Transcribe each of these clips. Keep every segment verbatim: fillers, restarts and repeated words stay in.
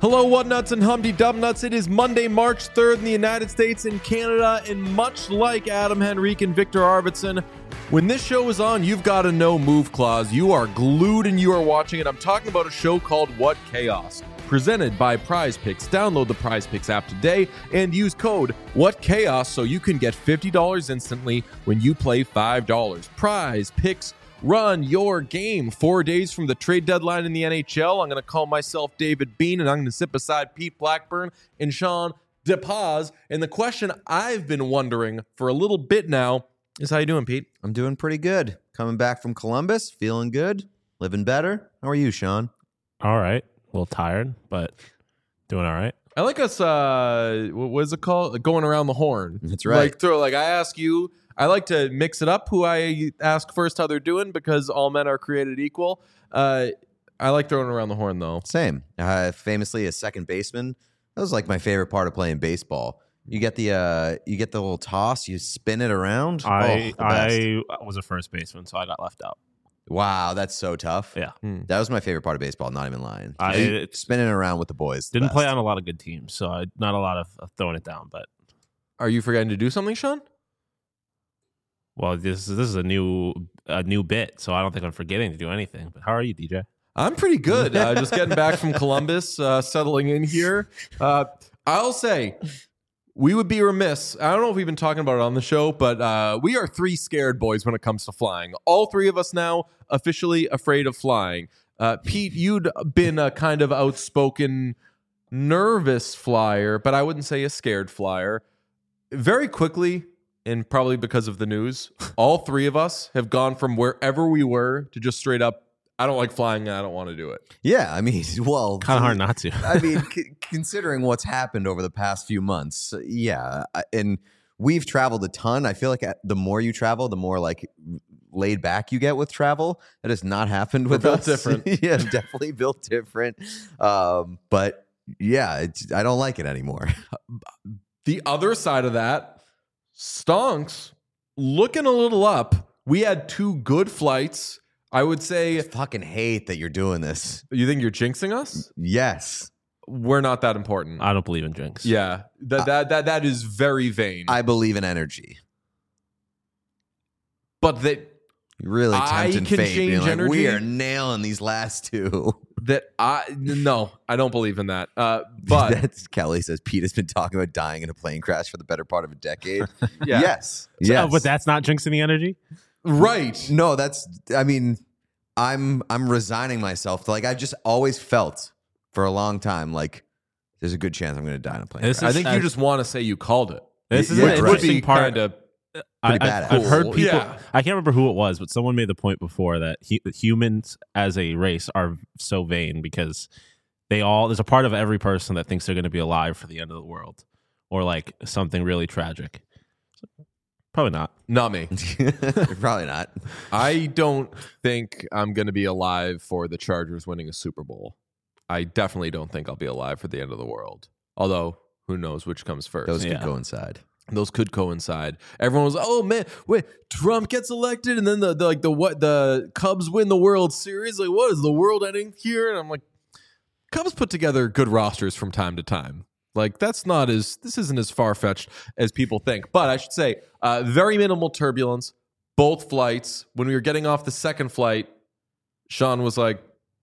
Hello, What Nuts and Humpty Dum Nuts. It is Monday, March third in the United States and Canada, and much like Adam Henrique and Victor Arvidsson, when this show is on, you've got to know Move Clause. You are glued and you are watching it. I'm talking about a show called What Chaos, presented by Prize Picks. Download the Prize Picks app today and use code What Chaos so you can get fifty dollars instantly when you play five dollars. Prize Picks. Run your game. Four days from the trade deadline in the N H L, I'm going to call myself David Bean, and I'm going to sit beside Pete Blackburn and Sean DePaz. And the question I've been wondering for a little bit now is, how you doing, Pete? I'm doing pretty good. Coming back from Columbus, feeling good, living better. How are you, Sean? All right. A little tired, but doing all right. I like us, uh, what is it called? Going around the horn. That's right. Like, throw, like I ask you, I like to mix it up who I ask first how they're doing because all men are created equal. Uh, I like throwing around the horn, though. Same. Uh, famously, a second baseman. That was like my favorite part of playing baseball. You get the uh, you get the little toss, you spin it around. I oh, the I was a first baseman, so I got left out. Wow, that's so tough. Yeah. Hmm. That was my favorite part of baseball, not even lying. I You- it's- spinning around with the boys. the Didn't play best. on a lot of good teams, so I, not a lot of of throwing it down. But Are you forgetting to do something, Sean? well, this this is a new a new bit, so I don't think I'm forgetting to do anything. But how are you, D J? I'm pretty good. Uh, just getting back from Columbus, uh, settling in here. Uh, I'll say we would be remiss. I don't know if we've been talking about it on the show, but uh, we are three scared boys when it comes to flying. All three of us now officially afraid of flying. Uh, Pete, you'd been a kind of outspoken, nervous flyer, but I wouldn't say a scared flyer. Very quickly, and probably because of the news, all three of us have gone from wherever we were to just straight up, I don't like flying and I don't want to do it. Yeah, I mean, well, Kind of hard not to. I mean, c- considering what's happened over the past few months, yeah, I- and we've traveled a ton. I feel like at- the more you travel, the more like laid back you get with travel. That has not happened with We're built us. different. Yeah, definitely built different. Um, but yeah, it's, I don't like it anymore. The other side of that, Stonks, looking a little up. We had two good flights. I would I say, fucking hate that you're doing this. you think you're jinxing us? Yes, We're not that important. I don't believe in drinks. yeah, that that that that is very vain. I believe in energy. but that You're really I tempting can fate. Being change like, energy. we are nailing these last two. that I no, I don't believe in that. Uh, but That's Kelly says Pete has been talking about dying in a plane crash for the better part of a decade. yeah, Yes. So- Yes. but that's not jinxing the energy. right. No, that's I mean, I'm I'm resigning myself to, like, I've just always felt for a long time like there's a good chance I'm gonna die in a plane This crash. I think uh, you just want to say you called it. This is Yeah, an right. interesting part. Kind of I, Pretty I've, badass. I've heard Cool. people. Yeah. I can't remember who it was, but someone made the point before that he, that humans as a race are so vain because they all there's a part of every person that thinks they're going to be alive for the end of the world or like something really tragic. Probably not. not me. Probably not. I don't think I'm going to be alive for the Chargers winning a Super Bowl. I definitely don't think I'll be alive for the end of the world. Although, who knows which comes first. Those Yeah. could coincide. Those could coincide. Everyone was, "Oh man, wait, Trump gets elected, and then the, the like the what the Cubs win the World Series. Like, what is the world ending here?" And I'm like, Cubs put together good rosters from time to time. Like, that's not as this isn't as far fetched as people think. But I should say, uh, very minimal turbulence. Both flights. When we were getting off the second flight, Sean was like,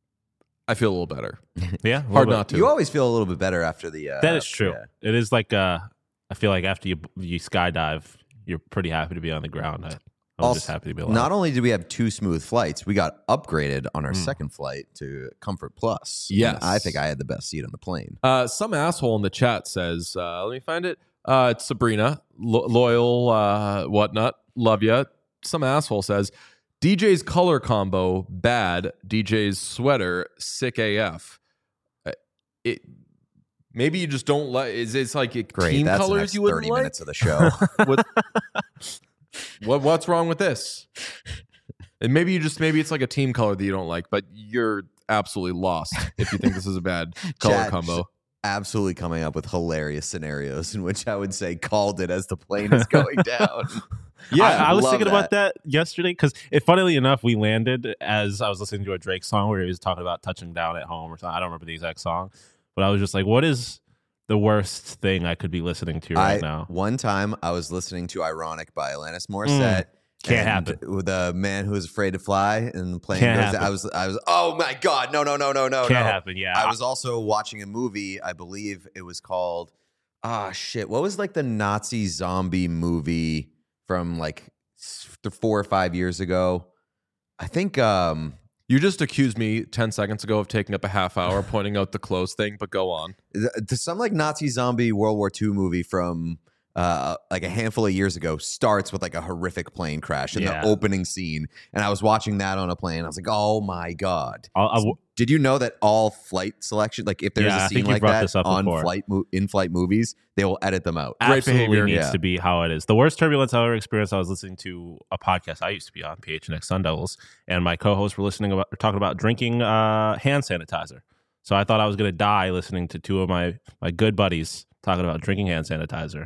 "I feel a little better." Yeah, a little Hard bit. not to. You always feel a little bit better after the uh, That is true. yeah. It is like uh, I feel like after you you skydive, you're pretty happy to be on the ground. I, I was Also, just happy to be alive. Not only did we have two smooth flights, we got upgraded on our Mm. second flight to Comfort Plus. Yes. And I think I had the best seat on the plane. Uh, some asshole in the chat says, uh, let me find it. Uh, it's Sabrina, lo- loyal, uh, whatnot. Love ya. Some asshole says, D J's color combo, bad. D J's sweater, sick A F. Uh, it Maybe you just don't like, is it's like a Great. team That's the colors next you wouldn't thirty like? minutes of the show. what, what, what's wrong with this? And maybe you just, maybe it's like a team color that you don't like, but you're absolutely lost if you think this is a bad color Chat, combo. Absolutely coming up with hilarious scenarios in which I would say called it as the plane is going down. Yeah, I, I was love thinking that. about that yesterday because, funnily enough, we landed as I was listening to a Drake song where he was talking about touching down at home or something. I don't remember the exact song, but I was just like, what is the worst thing I could be listening to right I, now? One time I was listening to Ironic by Alanis Morissette. Mm, can't and happen. With the man who is afraid to fly and the plane Can't goes. happen. I was, I was. Oh my god! No, no, no, no, no, Can't no. happen. Yeah, I was also watching a movie. I believe it was called. Ah, shit. What was like the Nazi zombie movie from like s- four or five years ago? I think. um You just accused me ten seconds ago of taking up a half hour pointing out the clothes thing, but go on. th- th- some like Nazi zombie World War Two movie from uh, like a handful of years ago starts with like a horrific plane crash in Yeah. the opening scene. And I was watching that on a plane. I was like, oh my God. I'll, I'll, Did you know that all flight selection, like if there's Yeah, I a think scene you've like brought that this up on before. flight mo- in-flight movies, they will edit them out. Great absolutely behavior. needs Yeah. to be how it is. The worst turbulence I ever experienced, I was listening to a podcast I used to be on, P H N X Sun Devils, and my co-hosts were listening about talking about drinking uh, hand sanitizer. So I thought I was going to die listening to two of my my good buddies talking about drinking hand sanitizer.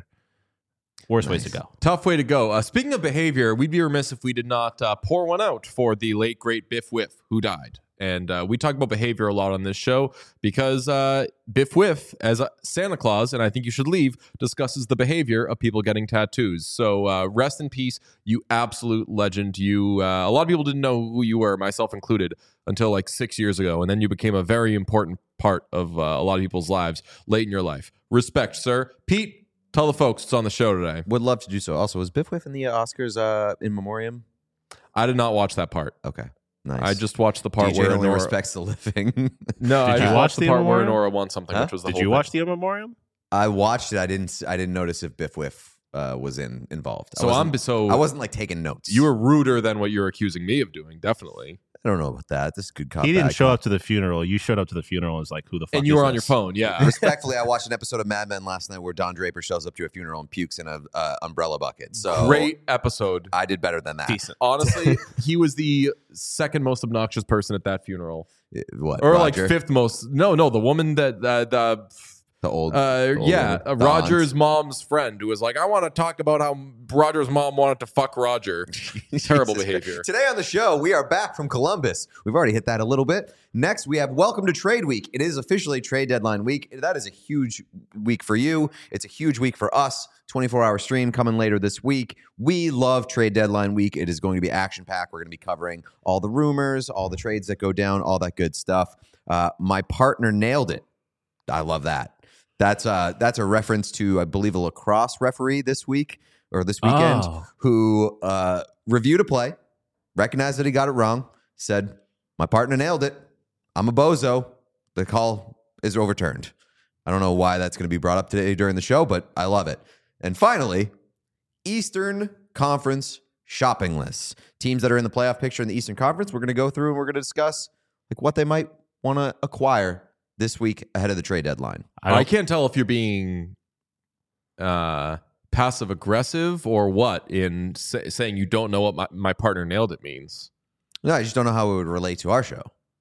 Worst ways to Nice. go. Tough way to go. Uh, speaking of behavior, we'd be remiss if we did not uh, pour one out for the late, great Biff Whiff, who died. And uh, we talk about behavior a lot on this show because uh, Biff Whiff, as a Santa Claus, and I think you should leave, discusses the behavior of people getting tattoos. So uh, rest in peace, you absolute legend. You, uh, a lot of people didn't know who you were, myself included, until like six years ago. And then you became a very important part of uh, a lot of people's lives late in your life. Respect, sir. Pete, tell the folks it's on the show today. Would love to do so. Also, was Biff Whiff in the Oscars uh, in memoriam? I did not watch that part. Okay, nice. I just watched the part D J where only Nora, respects the living. No, Did I you just watch watched the the part where memoriam? Nora won something, Huh? which was the Did whole you thing. watch the in memoriam? I watched it. I didn't. I didn't notice if Biff Whiff uh, was in involved. I So I'm wasn't- so I wasn't like taking notes. you were ruder than what you're accusing me of doing, definitely. I don't know about that. This is good cop. He didn't bad show cop. up to the funeral. You showed up to the funeral and was like, who the fuck And you is were on your this? phone, yeah. Respectfully, I watched an episode of Mad Men last night where Don Draper shows up to a funeral and pukes in a uh, umbrella bucket. So Great episode. I did better than that. Decent. Honestly, he was the second most obnoxious person at that funeral, Uh, What? or Roger? like fifth most. No, no, the woman that uh, the the old. uh, old yeah, lady. uh, The Roger's aunt. mom's friend who was like, I want to talk about how Roger's mom wanted to fuck Roger. Terrible Jesus behavior. Christ. Today on the show, we are back from Columbus. We've already hit that a little bit. Next, we have Welcome to Trade Week. It is officially trade deadline week. That is a huge week for you. It's a huge week for us. twenty-four hour stream coming later this week. We love trade deadline week. It is going to be action packed. We're going to be covering all the rumors, all the trades that go down, all that good stuff. Uh, my partner nailed it. I love that. That's uh that's a reference to, I believe, a lacrosse referee this week or this weekend Oh. who uh, reviewed a play, recognized that he got it wrong, said, my partner nailed it. I'm a bozo. The call is overturned. I don't know why that's going to be brought up today during the show, but I love it. And finally, Eastern Conference shopping lists. Teams that are in the playoff picture in the Eastern Conference, we're going to go through and we're going to discuss like what they might want to acquire this week ahead of the trade deadline. I, I don't, can't tell if you're being uh, passive aggressive or what in sa- saying you don't know what my, my partner nailed it means. No, I just don't know how it would relate to our show.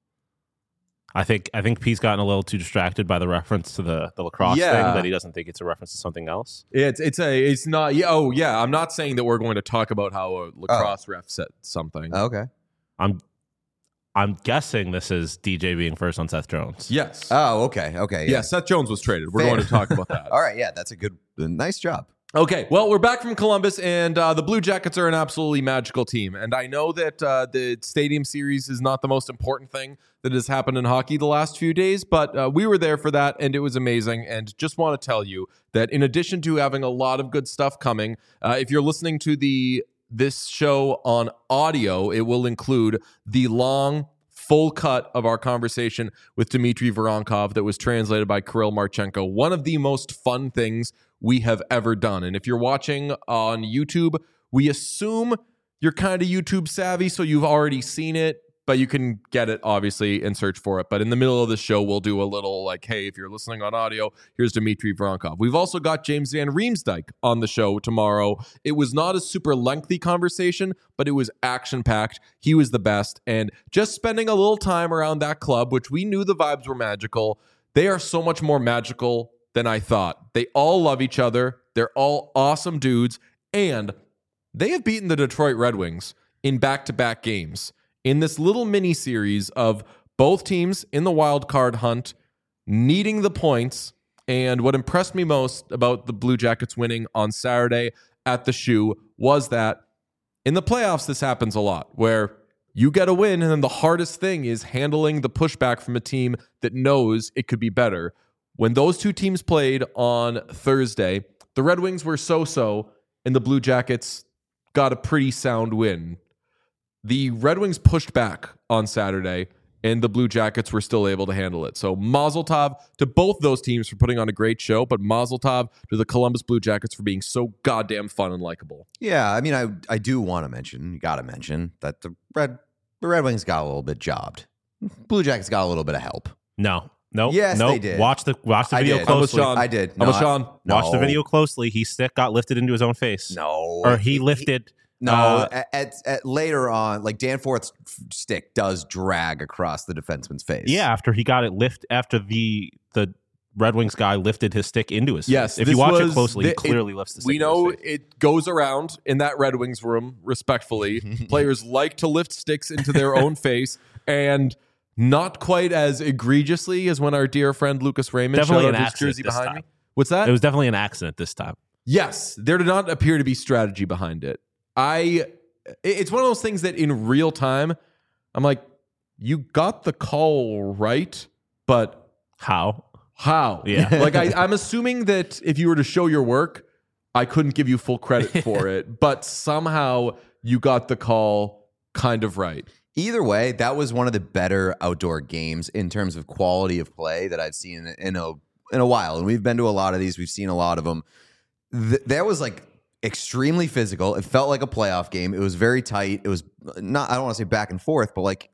I think I think Pete's gotten a little too distracted by the reference to the, the lacrosse Yeah. thing that he doesn't think it's a reference to something else. It's it's a it's not yeah oh yeah I'm not saying that we're going to talk about how a lacrosse ref said something. Okay. I'm I'm guessing this is D J being first on Seth Jones. Yes. Oh, okay. Okay. yeah. Seth Jones was traded. We're Fair. going to talk about that. All right. Yeah, that's a good, nice job. Okay, well, we're back from Columbus, and uh, the Blue Jackets are an absolutely magical team. And I know that uh, the Stadium Series is not the most important thing that has happened in hockey the last few days, but uh, we were there for that, and it was amazing. And just want to tell you that in addition to having a lot of good stuff coming, uh, if you're listening to the this show on audio, it will include the long full cut of our conversation with Dmitry Voronkov that was translated by Kirill Marchenko. One of the most fun things we have ever done. And if you're watching on YouTube, we assume you're kind of YouTube savvy, so you've already seen it, but you can get it, obviously, and search for it. But in the middle of the show, we'll do a little like, hey, if you're listening on audio, here's Dmitry Voronkov. We've also got James Van Riemsdyk on the show tomorrow. It was not a super lengthy conversation, but it was action-packed. He was the best. And just spending a little time around that club, which we knew the vibes were magical, they are so much more magical than I thought. They all love each other. They're all awesome dudes. And they have beaten the Detroit Red Wings in back-to-back games in this little mini series of both teams in the wild card hunt needing the points. And what impressed me most about the Blue Jackets winning on Saturday at the Shoe was that in the playoffs, this happens a lot, where you get a win, and then the hardest thing is handling the pushback from a team that knows it could be better. When those two teams played on Thursday, the Red Wings were so-so, and the Blue Jackets got a pretty sound win. The Red Wings pushed back on Saturday, and the Blue Jackets were still able to handle it. So mazel tov to both those teams for putting on a great show, but mazel tov to the Columbus Blue Jackets for being so goddamn fun and likable. Yeah, I mean, I I do want to mention, you got to mention, that the Red the Red Wings got a little bit jobbed. Blue Jackets got a little bit of help. No. Nope. Yes, nope. they did. Watch the watch the I video did. closely. Sean. I did. I'm a No, Sean. I- Watch no. the video closely. His stick got lifted into his own face. No. Or he lifted. No, uh, at, at, at later on, like Danforth's stick does drag across the defenseman's face. Yeah, after he got it lift, after the the Red Wings guy lifted his stick into his Yes, face. If this you watch was it closely, the- he clearly it- lifts the stick. We into know his face. it goes around in that Red Wings room, respectfully. Players like to lift sticks into their own face, and not quite as egregiously as when our dear friend Lucas Raymond Definitely showed an out his accident jersey this behind time. me. What's that? It was definitely an accident this time. Yes, there did not appear to be strategy behind it. I, it's one of those things that in real time, I'm like, you got the call right, but How? how? Yeah. Like I, I'm assuming that if you were to show your work, I couldn't give you full credit for it, but somehow you got the call kind of right. Either way, that was one of the better outdoor games in terms of quality of play that I've seen in a in a while. And we've been to a lot of these. We've seen a lot of them. Th- that was like extremely physical. It felt like a playoff game. It was very tight. It was not, I don't want to say back and forth, but like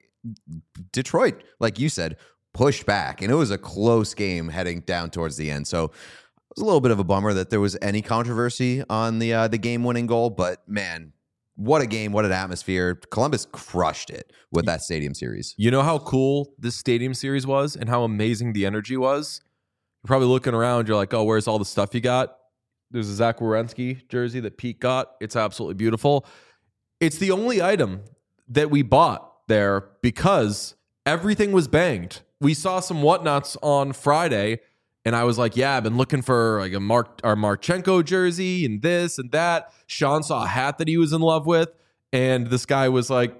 Detroit, like you said, pushed back. And it was a close game heading down towards the end. So it was a little bit of a bummer that there was any controversy on the uh, the game-winning goal. But man, what a game, what an atmosphere. Columbus crushed it with that stadium series. You know how cool this stadium series was and how amazing the energy was? You're probably looking around. You're like, oh, where's all the stuff you got? There's a Zach Werenski jersey that Pete got. It's absolutely beautiful. It's the only item that we bought there because everything was banged. We saw some whatnots on Friday, and I was like, yeah, I've been looking for like a Mark our Marchenko jersey and this and that. Sean saw a hat that he was in love with, and this guy was like,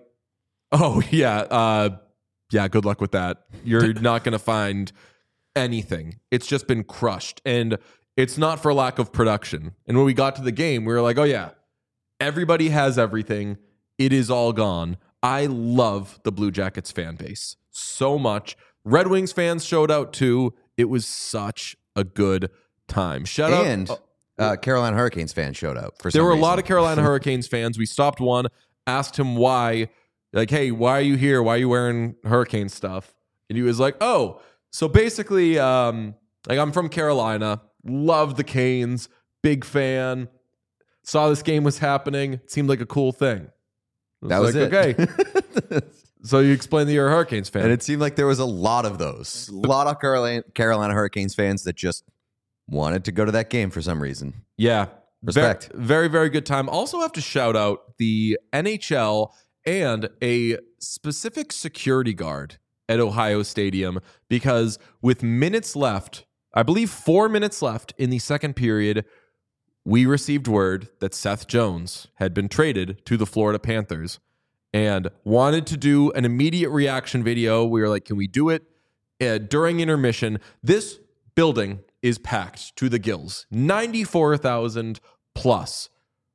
oh, yeah, uh, yeah, good luck with that. You're not going to find anything. It's just been crushed. And it's not for lack of production. And when we got to the game, we were like, oh, yeah, everybody has everything. It is all gone. I love the Blue Jackets fan base so much. Red Wings fans showed out too. It was such a good time. Shout out. And uh, Carolina Hurricanes fans showed up. For There some were a reason. lot of Carolina Hurricanes fans. We stopped one, asked him why, like, hey, why are you here? Why are you wearing Hurricane stuff? And he was like, oh, so basically, um, like, I'm from Carolina, love the Canes, big fan, saw this game was happening, it seemed like a cool thing. I That was like, it. okay. So you explain that you're a Hurricanes fan. And it seemed like there was a lot of those. A lot of Carolina, Carolina Hurricanes fans that just wanted to go to that game for some reason. Yeah. Respect. Very, very, very good time. Also have to shout out the N H L and a specific security guard at Ohio Stadium because with minutes left, I believe four minutes left in the second period, we received word that Seth Jones had been traded to the Florida Panthers and wanted to do an immediate reaction video. We were like, can we do it uh, during intermission? This building is packed to the gills, ninety-four thousand plus.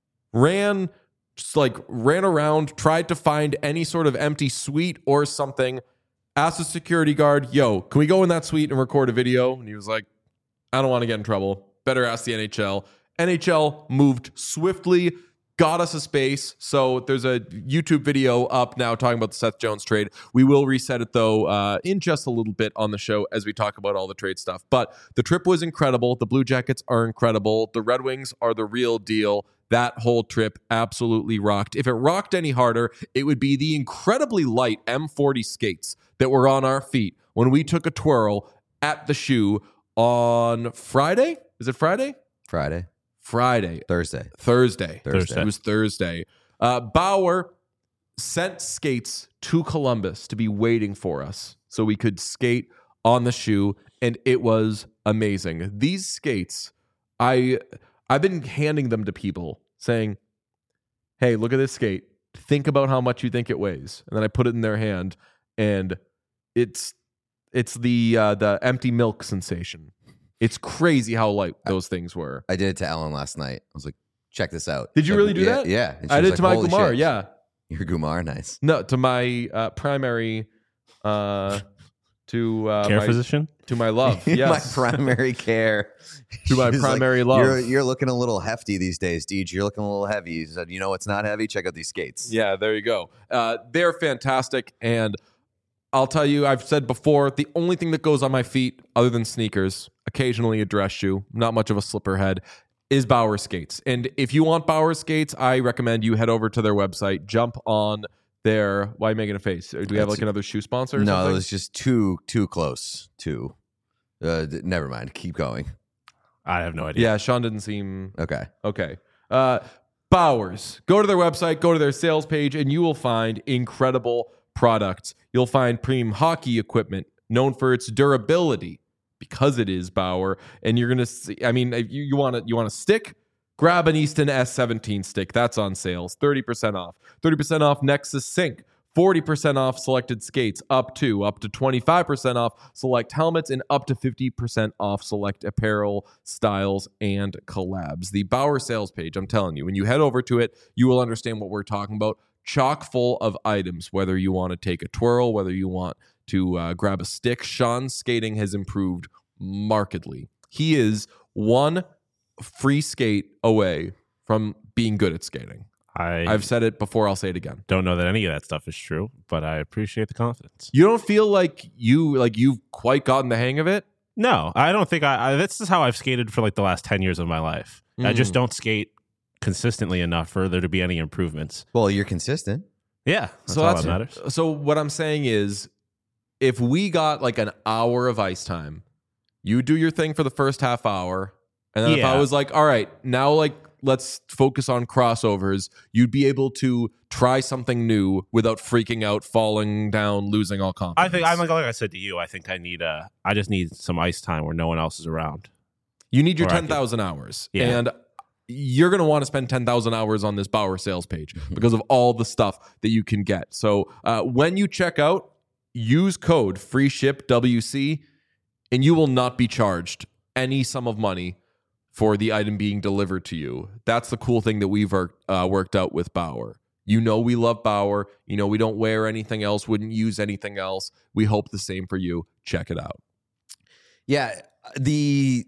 Ran, just like ran around, tried to find any sort of empty suite or something. Asked the security guard, yo, can we go in that suite and record a video? And he was like, I don't want to get in trouble. Better ask the N H L. N H L moved swiftly, got us a space. So there's a YouTube video up now talking about the Seth Jones trade. We will reset it, though, uh, in just a little bit on the show as we talk about all the trade stuff. But the trip was incredible. The Blue Jackets are incredible. The Red Wings are the real deal. That whole trip absolutely rocked. If it rocked any harder, it would be the incredibly light M forty skates that were on our feet when we took a twirl at the Shoe on Friday. Is it Friday? Friday, Friday. Thursday, Thursday. Thursday. It was Thursday. Uh, Bauer sent skates to Columbus to be waiting for us so we could skate on the shoe, and it was amazing. These skates, I I've been handing them to people saying, hey, look at this skate. Think about how much you think it weighs. And then I put it in their hand, and it's it's the uh, the empty milk sensation. It's crazy how light those things were. I did it to Ellen last night. I was like, check this out. Did you Like, really do yeah, that? Yeah. And she I was did to like, my "Holy Gumar, shit." yeah. Your Gumar, nice. No, to my uh, primary, uh, to uh, Care my, physician? to my love. Yes, My primary care. To my She's like, primary love. You're, you're looking a little hefty these days, Deej. You're looking a little heavy. He said, you know what's not heavy? Check out these skates. Yeah, there you go. Uh, they're fantastic, and I'll tell you, I've said before, the only thing that goes on my feet, other than sneakers, occasionally a dress shoe, not much of a slipper head, is Bauer skates. And if you want Bauer skates, I recommend you head over to their website, jump on their. Why are you making a face? Do we have like another shoe sponsor? Or No, something? it was just too too close. Too. Uh, d- never mind. Keep going. I have no idea. Yeah, Sean didn't seem Okay. okay. Uh, Bowers. Go to their website, go to their sales page, and you will find incredible products. You'll find premium hockey equipment known for its durability because it is Bauer. And you're gonna see. I mean, if you, you want to you want a stick? Grab an Easton S seventeen stick. That's on sales. thirty percent off. thirty percent off Nexus Sync. forty percent off selected skates, up to up to twenty-five percent off select helmets, and up to fifty percent off select apparel styles and collabs. The Bauer sales page, I'm telling you, when you head over to it, you will understand what we're talking about. Chock full of items, whether you want to take a twirl, whether you want to uh, grab a stick. Sean's skating has improved markedly. He is one free skate away from being good at skating. I I've said it before, I'll say it again. don't know that any of that stuff is true, but I appreciate the confidence. You don't feel like you like you've quite gotten the hang of it? No, I don't think I, I this is how I've skated for like the last ten years of my life. I just Mm. don't skate consistently enough for there to be any improvements. Well, you're consistent. Yeah, that's so all that's that matters. So what I'm saying is, if we got like an hour of ice time, you do your thing for the first half hour, and then if Yeah. I was like, all right, now like let's focus on crossovers, you'd be able to try something new without freaking out, falling down, losing all confidence. I think I'm like, like I said to you. I think I need uh I just need some ice time where no one else is around. you need your or I ten thousand hours, Yeah. and you're going to want to spend ten thousand hours on this Bauer sales page because of all the stuff that you can get. So uh, when you check out, use code FREESHIPWC, and you will not be charged any sum of money for the item being delivered to you. That's the cool thing that we've uh, worked out with Bauer. You know we love Bauer. You know we don't wear anything else, wouldn't use anything else. We hope the same for you. Check it out. Yeah, the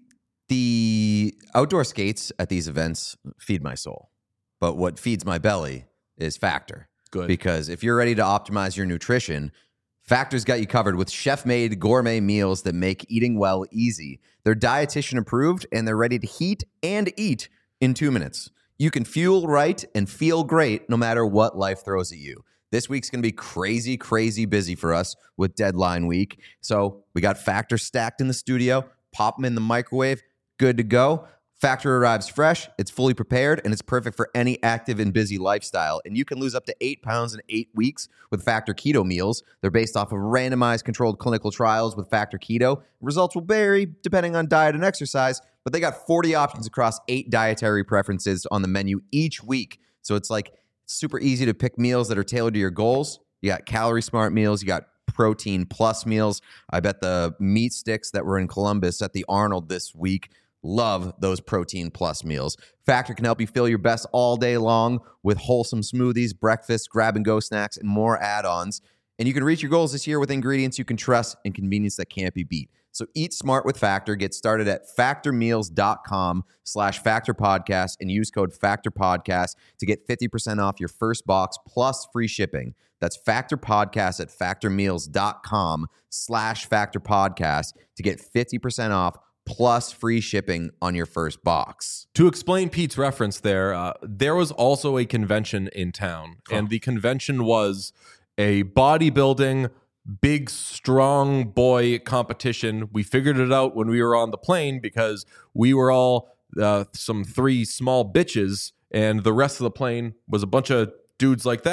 the outdoor skates at these events feed my soul, but what feeds my belly is Factor. Good. Because if you're ready to optimize your nutrition, Factor's got you covered with chef-made gourmet meals that make eating well easy. They're dietitian approved, and they're ready to heat and eat in two minutes. You can fuel right and feel great no matter what life throws at you. This week's going to be crazy, crazy busy for us with deadline week. So we got Factor stacked in the studio. Pop them in the microwave. Good to go. Factor arrives fresh, it's fully prepared, and it's perfect for any active and busy lifestyle. And you can lose up to eight pounds in eight weeks with Factor Keto meals. They're based off of randomized controlled clinical trials with Factor Keto. Results will vary depending on diet and exercise, but they got forty options across eight dietary preferences on the menu each week. So it's like super easy to pick meals that are tailored to your goals. You got calorie smart meals, you got protein plus meals. I bet the meat sticks that were in Columbus at the Arnold this week love those protein plus meals. Factor can help you feel your best all day long with wholesome smoothies, breakfast, grab and go snacks, and more add-ons. And you can reach your goals this year with ingredients you can trust and convenience that can't be beat. So eat smart with Factor. Get started at factormeals.com slash factor podcast and use code factor podcast to get fifty percent off your first box plus free shipping. That's Factor Podcast at factormeals.com slash factor podcast to get fifty percent off plus free shipping on your first box. To explain Pete's reference there, uh, there was also a convention in town, and the convention was a bodybuilding, big, strong boy competition. We figured it out when we were on the plane because we were all uh, some three small bitches, and the rest of the plane was a bunch of dudes like that.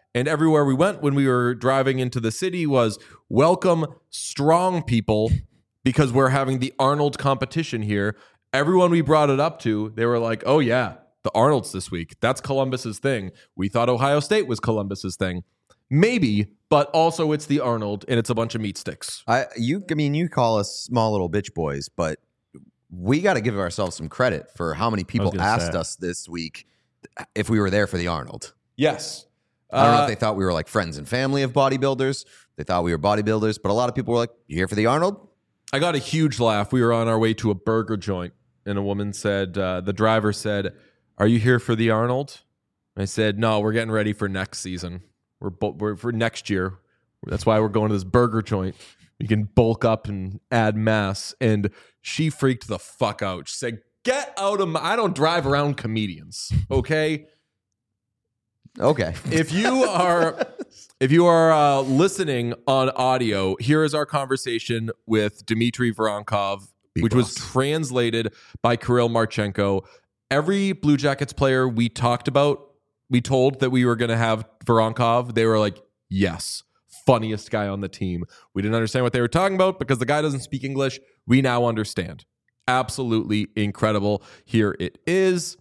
And everywhere we went when we were driving into the city was welcome strong people because we're having the Arnold competition here. Everyone we brought it up to, they were like, oh yeah, the Arnold's this week. That's Columbus's thing. We thought Ohio State was Columbus's thing. Maybe, but also it's the Arnold and it's a bunch of meat sticks. I you I mean you call us small little bitch boys, but we got to give ourselves some credit for how many people asked say. us this week if we were there for the Arnold. Yes. I don't know Uh, if they thought we were like friends and family of bodybuilders. They thought we were bodybuilders, but a lot of people were like, "You here for the Arnold?" I got a huge laugh. We were on our way to a burger joint, and a woman said, uh, the driver said, "Are you here for the Arnold?" I said, "No, we're getting ready for next season. We're, bu- we're for next year. That's why we're going to this burger joint. You can bulk up and add mass." And she freaked the fuck out. She said, "Get out of my, I don't drive around comedians, okay?" Okay. If you are if you are uh, listening on audio, here is our conversation with Dmitry Voronkov, Big which was boss. translated by Kirill Marchenko. Every Blue Jackets player we talked about, we told that we were going to have Voronkov. They were like, yes, funniest guy on the team. We didn't understand what they were talking about because the guy doesn't speak English. We now understand. Absolutely incredible. Here it is.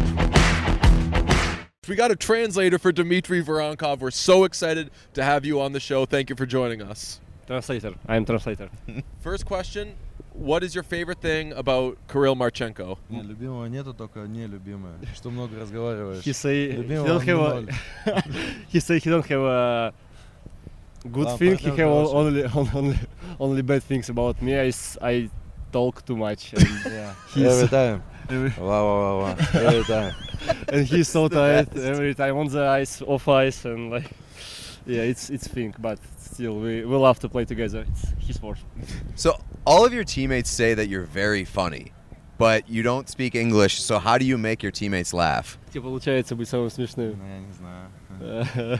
We got a translator for Dmitry Voronkov. We're so excited to have you on the show. Thank you for joining us. Translator. I am translator. First question, what is your favorite thing about Kirill Marchenko? Не, любимого нету, только нелюбимое. Что много разговариваешь. He say he Любимого don't have ноль. a, he say he don't have a good Ладно, thing. He партнер have хороший. only only only bad things about me. I, s- I talk too much. And, yeah, Every he's, time. every, Wow, wow, wow, wow. Every time. and he's so tired every time on the ice, off ice, and like yeah, it's it's thing. But still, we we love to play together. It's his sport. So all of your teammates say that you're very funny, but you don't speak English. So how do you make your teammates laugh? Тебе получается быть самым смешным. Ну, я не знаю.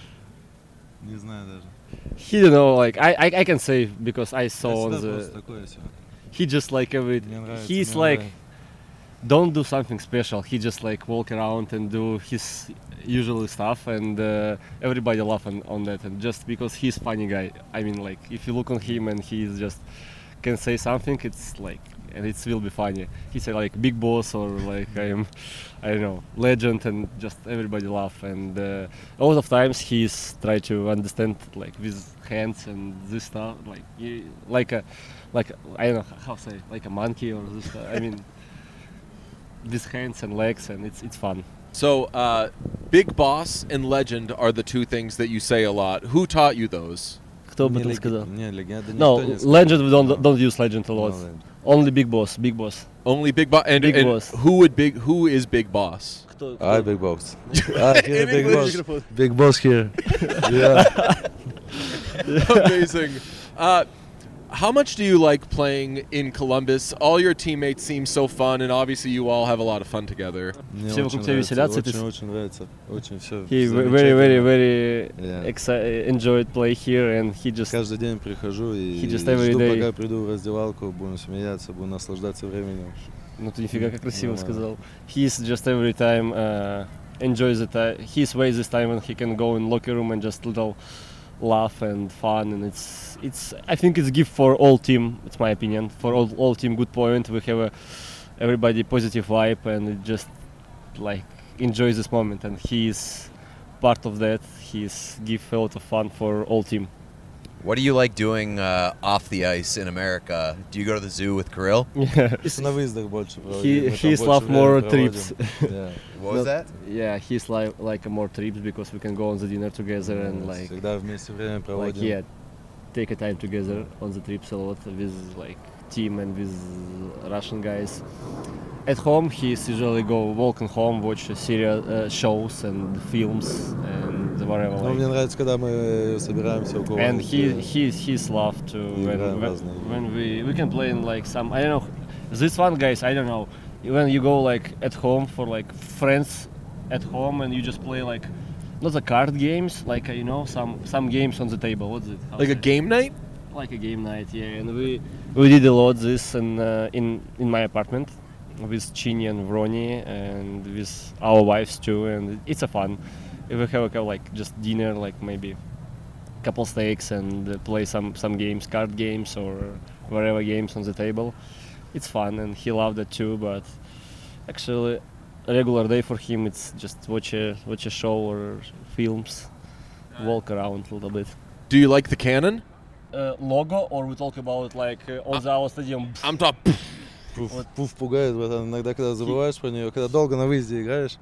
Не знаю даже. He don't know, like I, I I can say because I Я saw on всегда the. просто такой всё. He just like every. Мне нравится, He's мне like. нравится. Don't do something special. He just like walk around and do his usual stuff, and uh, everybody laugh on, on that. And just because he's funny guy, I mean, like if you look on him and he's just can say something, it's like and it will be funny. He say like big boss or like I am, I don't know, legend, and just everybody laugh. And uh, a lot of times he's try to understand like with hands and this stuff, like he, like a like I don't know how to say like a monkey or this. Stuff. I mean. With hands and legs, and it's it's fun. So, uh, Big Boss and Legend are the two things that you say a lot. Who taught you those? Кто об Не этом лег- сказал? Не, легенда No, никто не сказал. legend we don't No. don't use legend a lot. No legend. Only big boss, big boss. Only Big Boss. And, Big and Boss. who would big? Who is Big Boss? Кто? Ah, big boss. Ah, here, In big English. boss. Big boss here. Yeah. Amazing. Uh, how much do you like playing in Columbus? All your teammates seem so fun, and obviously you all have a lot of fun together. Мне Все очень вокруг тебя нравится, веселятся, ты очень, с- очень нравится. Очень все. He ve- very very very Yeah. exci- enjoyed play here, and he just Каждый день прихожу и He just every жду, day- пока приду в раздевалку, будем смеяться, будем наслаждаться временем. ну ты нифига как красиво Нормально. сказал. He's just every time uh, enjoys the time. He's ways this time when he can go in locker room and just little laugh and fun, and it's it's I think it's gift for all team. It's my opinion for all all team. Good point. We have a everybody positive vibe, and it just like enjoys this moment, and he's part of that. He's give a lot of fun for all team. What do you like doing uh, off the ice in America? Do you go to the zoo with Kirill? Yeah, На выездах больше проводим. he мы там he's больше love времени more проводим. trips. Yeah. What was that? Yeah, he's like like a more trips because we can go on the dinner together and like Всегда вместе время like проводим. yeah, take a time together on the trips a lot with like team and with Russian guys. At home, he's usually go walking home, watch serial uh, shows and films and whatever. Но мне Like. нравится, когда мы собираемся у And кого-нибудь. he э, he's he's love to when, играем when, разные игры. when we we can play in like some I don't know this one guys I don't know when you go like at home for like friends at home and you just play like not the card games like uh, you know some some games on the table. What's it? How Like a say? game night? Like a game night, yeah. And we we did a lot this in uh, in in my apartment with Chini and Vroni and with our wives too, and it's a fun. if we have a like just dinner, like maybe couple steaks and uh, play some some games, card games or whatever games on the table. It's fun and he loved it too. But actually, a regular day for him, it's just watch a watch a show or films, walk around a little bit. Do you like the cannon? Uh, logo, or we talk about like uh, on the our stadium? I'm talking. Пуф, пуф пугает, братан. Иногда, когда забываешь про нее, когда долго на выезде играешь.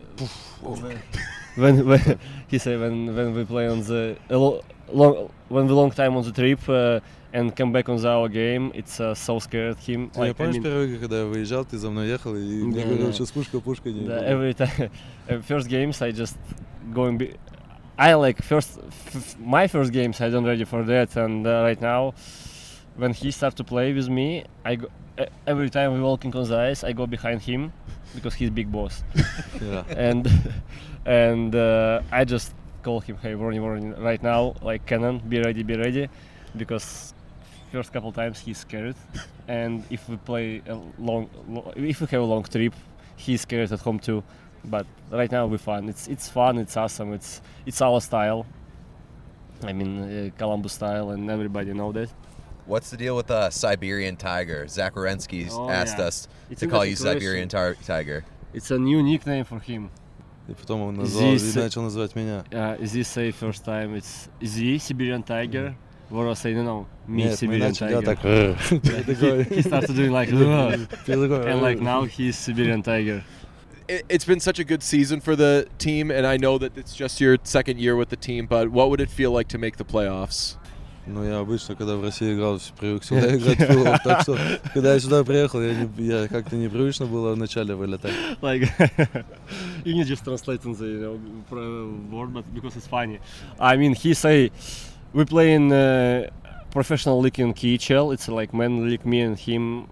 when, when he said when when we play on the a lo- long when we long time on the trip uh, and come back on the our game, it's uh, so scared him. Ты Like, I помнишь mean, первый игры, когда я выезжал, ты за мной ехал и мне Да, говорил, да. сейчас пушка, пушка. не the, помню. every time uh, first games I just going. Be- I like first f- my first games I don't ready for that, and uh, right now when he start to play with me, I go, uh, every time we walking on the ice, I go behind him because he's big boss. Yeah. and and uh, I just call him, hey, warning, warning, right now, like cannon, be ready, be ready, because first couple times he's scared, and if we play a long, lo- if we have a long trip, he's scared at home too. But right now we're fun. It's it's fun. It's awesome. It's it's our style. I mean, uh, Columbus style, and everybody know that. What's the deal with uh, Siberian Tiger? Zach Wierenski's Oh, asked yeah. us It's to call you interesting Siberian tar- Tiger. It's a new nickname for him. И потом он назвал, Здесь- и начал называть меня. Uh, this say first time it's the Siberian Tiger. Voro say no, no, me Нет, мы Siberian начали делать Tiger. так. Ты he, такой, he started doing like, "Ugh," ты такой, and like now he's Siberian Tiger. It, it's been such a good season for the team, and I know that it's just your second year with the team. But what would it feel like to make the playoffs? Ну, я обычно, когда в России играл, привык сюда играть в плей-офф, так что, когда я сюда приехал, я, не, я как-то непривычно было вначале вылетать. Like you need just translate in the you know, pro- word, but because it's funny. I mean, he say we play in uh, professional league in K H L. It's like men league, me and him,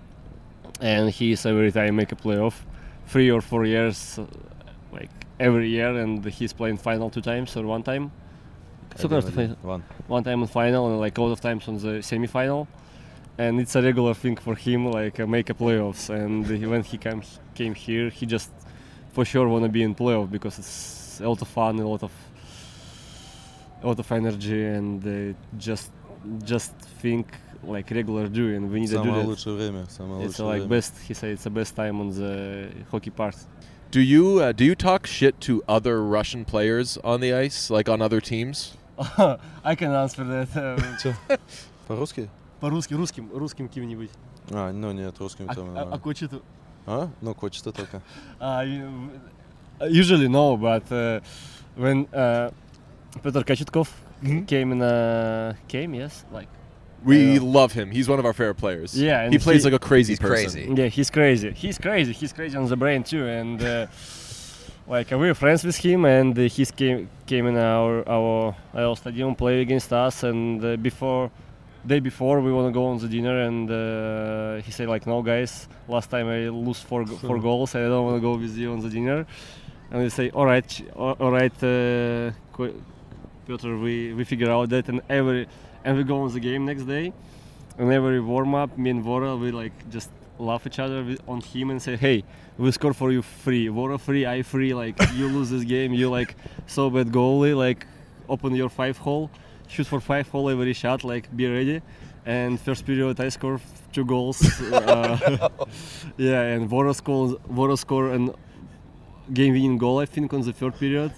and he's every time make a playoff, three or four years, uh, like every year, and he's playing final two times or one time. Сколько раз ты final? One. One time in final and like a lot of times on the semi-final, and it's a regular thing for him, like uh, make a playoffs. And he, when he came came here, he just for sure wanna be in playoff because it's a lot of fun, a lot of a lot of energy, and uh, just just think like regular do, and we need to do Самое that. лучшее время, самое It's лучшее uh, like время. best. He said it's the best time on the hockey part. Do you uh, do you talk shit to other Russian players on the ice, like on other teams? I can answer that. Чё? По-русски? По-русски, русским, русским кем-нибудь. А, ну нет, русским А, там. а, а нормально. кочету? А? Ну, кочета только. Uh, you- usually no, but uh, when uh, Petr Kachetkov came in a came, yes, like We Yeah. love him. He's one of our favorite players. Yeah, and he plays he- like a crazy He's person. crazy. yeah, he's crazy. He's crazy. He's crazy on the brain too, and uh, like uh, we're friends with him, and uh, he came came in our our our stadium, play against us, and uh, before day before we want to go on the dinner, and uh, he said like, no guys, last time I lose four go- four goals, I don't want to go with you on the dinner, and we say all right, ch- all all right, uh, Ko- Piotr, we we figure out that, and every and we go on the game next day. And every warm up, me and Vora, we like just laugh each other with, on him and say, "Hey, we score for you free. Vora free, I free. Like you lose this game, you like so bad goalie. Like open your five hole, shoot for five hole every shot. Like be ready." And first period, I score two goals. uh, yeah, and Vora score Vora score an game-winning goal, I think, on the third period.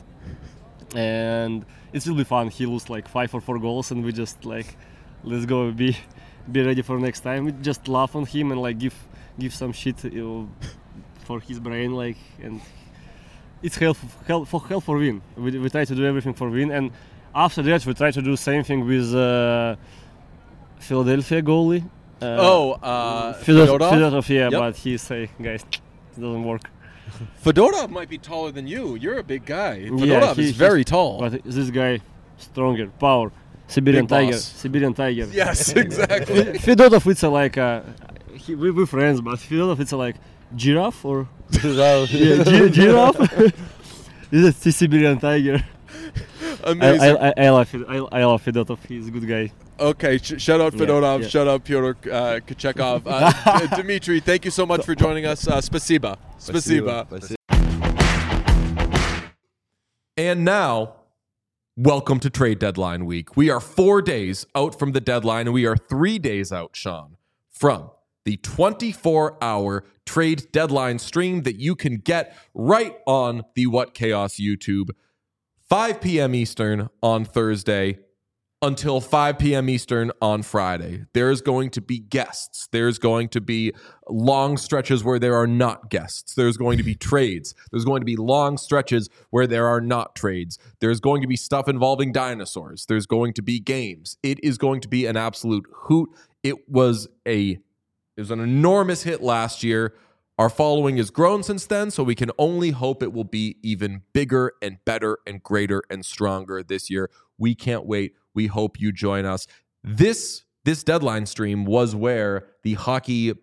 And it's really fun. He lose like five or four goals, and we just like, let's go, be be ready for next time. We just laugh on him and like give give some shit, you know, for his brain, like, and it's help help for help for win. We, we try to do everything for win, and after that we try to do same thing with uh, Philadelphia goalie. Uh, Oh, uh, Fedotov, Fedotov? Fedotov, yeah, Yep. but he say, guys, it doesn't work. Fedotov might be taller than you. You're a big guy. Fedotov Yeah, he- is very he's- tall. But this guy, stronger, power, Siberian Big boss. tiger, Siberian tiger. Yes, exactly. Fedotov, it's a like a, he, we we friends, but Fedotov, it's a like giraffe or yeah, gi- giraffe. This is the Siberian tiger. I, Amazing. I, I, I love Fed- I, I love Fedotov. He's a good guy. Okay, sh- shout out Yeah, Fedotov, yeah. shout out Pyotr uh, Kochekov. Uh, D- Dmitry, thank you so much for joining us. Uh, spasiba. Spasiba. Спасибо. And now, welcome to trade deadline week. We are four days out from the deadline, and we are three days out, Sean, from the twenty-four hour trade deadline stream that you can get right on the What Chaos YouTube, five p.m. Eastern on Thursday until five p.m. Eastern on Friday. There's going to be guests. There's going to be long stretches where there are not guests. There's going to be trades. There's going to be long stretches where there are not trades. There's going to be stuff involving dinosaurs. There's going to be games. It is going to be an absolute hoot. It was a it was an enormous hit last year. Our following has grown since then, so we can only hope it will be even bigger and better and greater and stronger this year. We can't wait. We hope you join us. This this deadline stream was where the hockey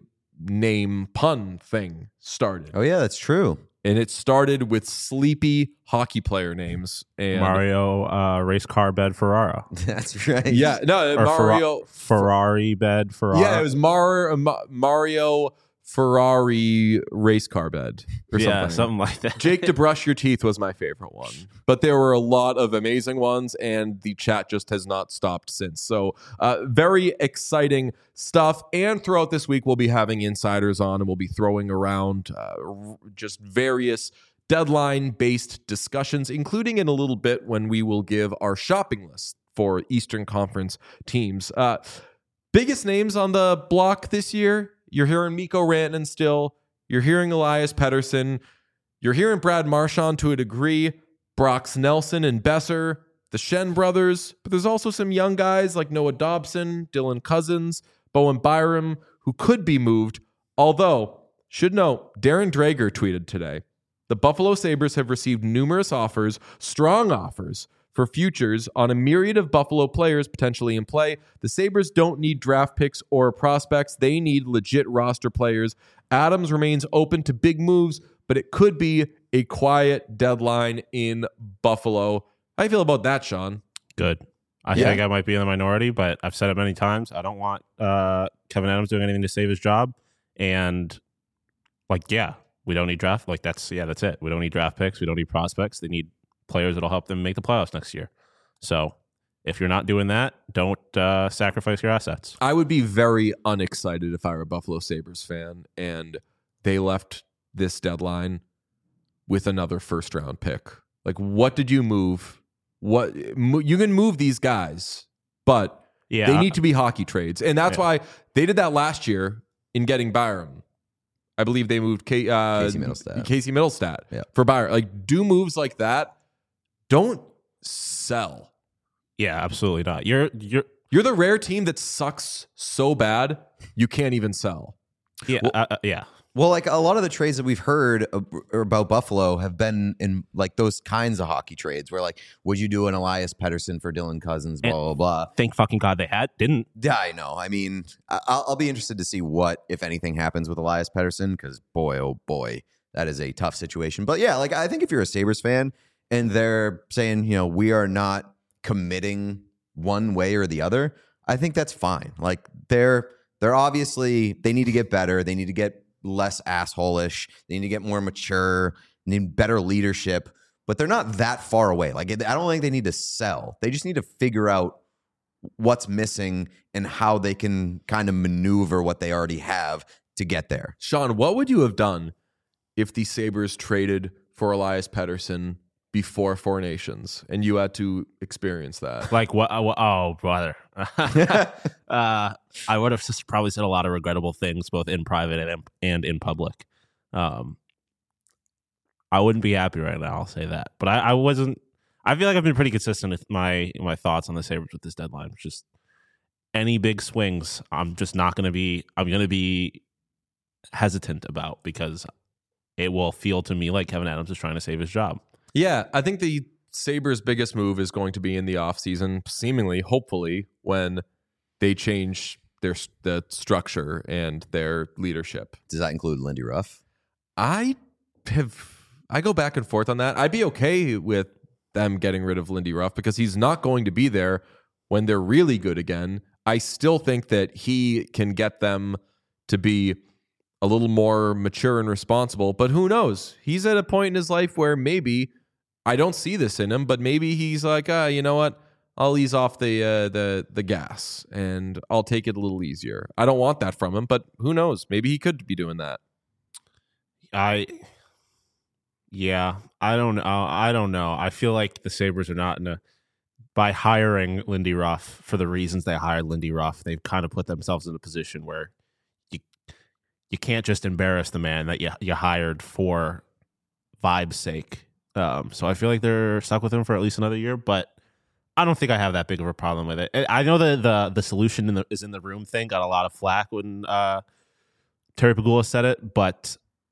name pun thing started. Oh yeah, that's true. And it started with sleepy hockey player names. And Mario uh, race car bed Ferrara. That's right. yeah, no, Or Mario Ferra- Ferrari bed Ferrara. Yeah, it was Mar, Ma- Mario Ferrari race car bed or yeah, something. something like that. Jake to brush your teeth was my favorite one, but there were a lot of amazing ones, and the chat just has not stopped since. So uh, very exciting stuff. And throughout this week, we'll be having insiders on, and we'll be throwing around uh, r- just various deadline-based discussions, including in a little bit when we will give our shopping list for Eastern Conference teams. Uh, biggest names on the block this year. You're hearing Mikko Rantanen still. You're hearing Elias Pettersson. You're hearing Brad Marchand to a degree. Brock Nelson and Besser, the Shen brothers. But there's also some young guys like Noah Dobson, Dylan Cousins, Bowen Byram, who could be moved. Although, should note, Darren Drager tweeted today, the Buffalo Sabres have received numerous offers, strong offers, for futures on a myriad of Buffalo players potentially in play. The Sabres don't need draft picks or prospects. They need legit roster players. Adams remains open to big moves, but it could be a quiet deadline in Buffalo. How do you feel about that, Sean? Good. I Yeah. think I might be in the minority, but I've said it many times. I don't want uh, Kevin Adams doing anything to save his job. And, like, yeah, we don't need draft. Like, that's, yeah, that's it. We don't need draft picks. We don't need prospects. They need players that'll help them make the playoffs next year. So if you're not doing that, don't uh, sacrifice your assets. I would be very unexcited if I were a Buffalo Sabres fan and they left this deadline with another first round pick. Like, what did you move? What you can move these guys, but Yeah, they need to be hockey trades. And that's Yeah. why they did that last year in getting Byram. I believe they moved K, uh, Casey Middlestat. Casey Middlestat Yeah. for Byram. Like, do moves like that. Don't sell. yeah, absolutely not. You're you're You're the rare team that sucks so bad you can't even sell. yeah Well- uh, uh, yeah. Well, like a lot of the trades that we've heard ab- about Buffalo have been in like those kinds of hockey trades where, like, would you do an Elias Pettersson for Dylan Cousins, blah, And- blah, blah. Thank fucking God they had didn't. Yeah, I know. I mean, I- I'll, I'll be interested to see what, if anything, happens with Elias Pettersson because, boy, oh boy, that is a tough situation. But yeah, like, I think if you're a Sabres fan and they're saying, you know, we are not committing one way or the other, I think that's fine. Like, they're they're obviously, they need to get better. They need to get less asshole-ish. They need to get more mature, need better leadership, but they're not that far away. Like, I don't think they need to sell. They just need to figure out what's missing and how they can kind of maneuver what they already have to get there. Sean, what would you have done if the Sabres traded for Elias Pettersson before Four Nations and you had to experience that? Like what? Uh, what- oh, brother. uh, I would have just probably said a lot of regrettable things, both in private and in, and in public. Um, I wouldn't be happy right now. I'll say that. But I, I wasn't. I feel like I've been pretty consistent with my my thoughts on the Sabres with this deadline. Just any big swings, I'm just not going to be. I'm going to be hesitant about because it will feel to me like Kevin Adams is trying to save his job. Yeah, I think the Sabres' biggest move is going to be in the offseason, seemingly, hopefully, when they change their the structure and their leadership. Does that include Lindy Ruff? I have I go back and forth on that. I'd be okay with them getting rid of Lindy Ruff because he's not going to be there when they're really good again. I still think that he can get them to be a little more mature and responsible, but who knows? He's at a point in his life where maybe I don't see this in him, but maybe he's like, uh, you know what? I'll ease off the uh, the the gas and I'll take it a little easier. I don't want that from him, but who knows? Maybe he could be doing that. I, yeah, I don't know. I don't know. I feel like the Sabres are not in a, by hiring Lindy Ruff for the reasons they hired Lindy Ruff, they've kind of put themselves in a position where you you can't just embarrass the man that you you hired for vibe's sake. Um, so I feel like they're stuck with him for at least another year, but I don't think I have that big of a problem with it. I know that the the solution in the, is in the room thing got a lot of flack when uh, Terry Pegula said it, but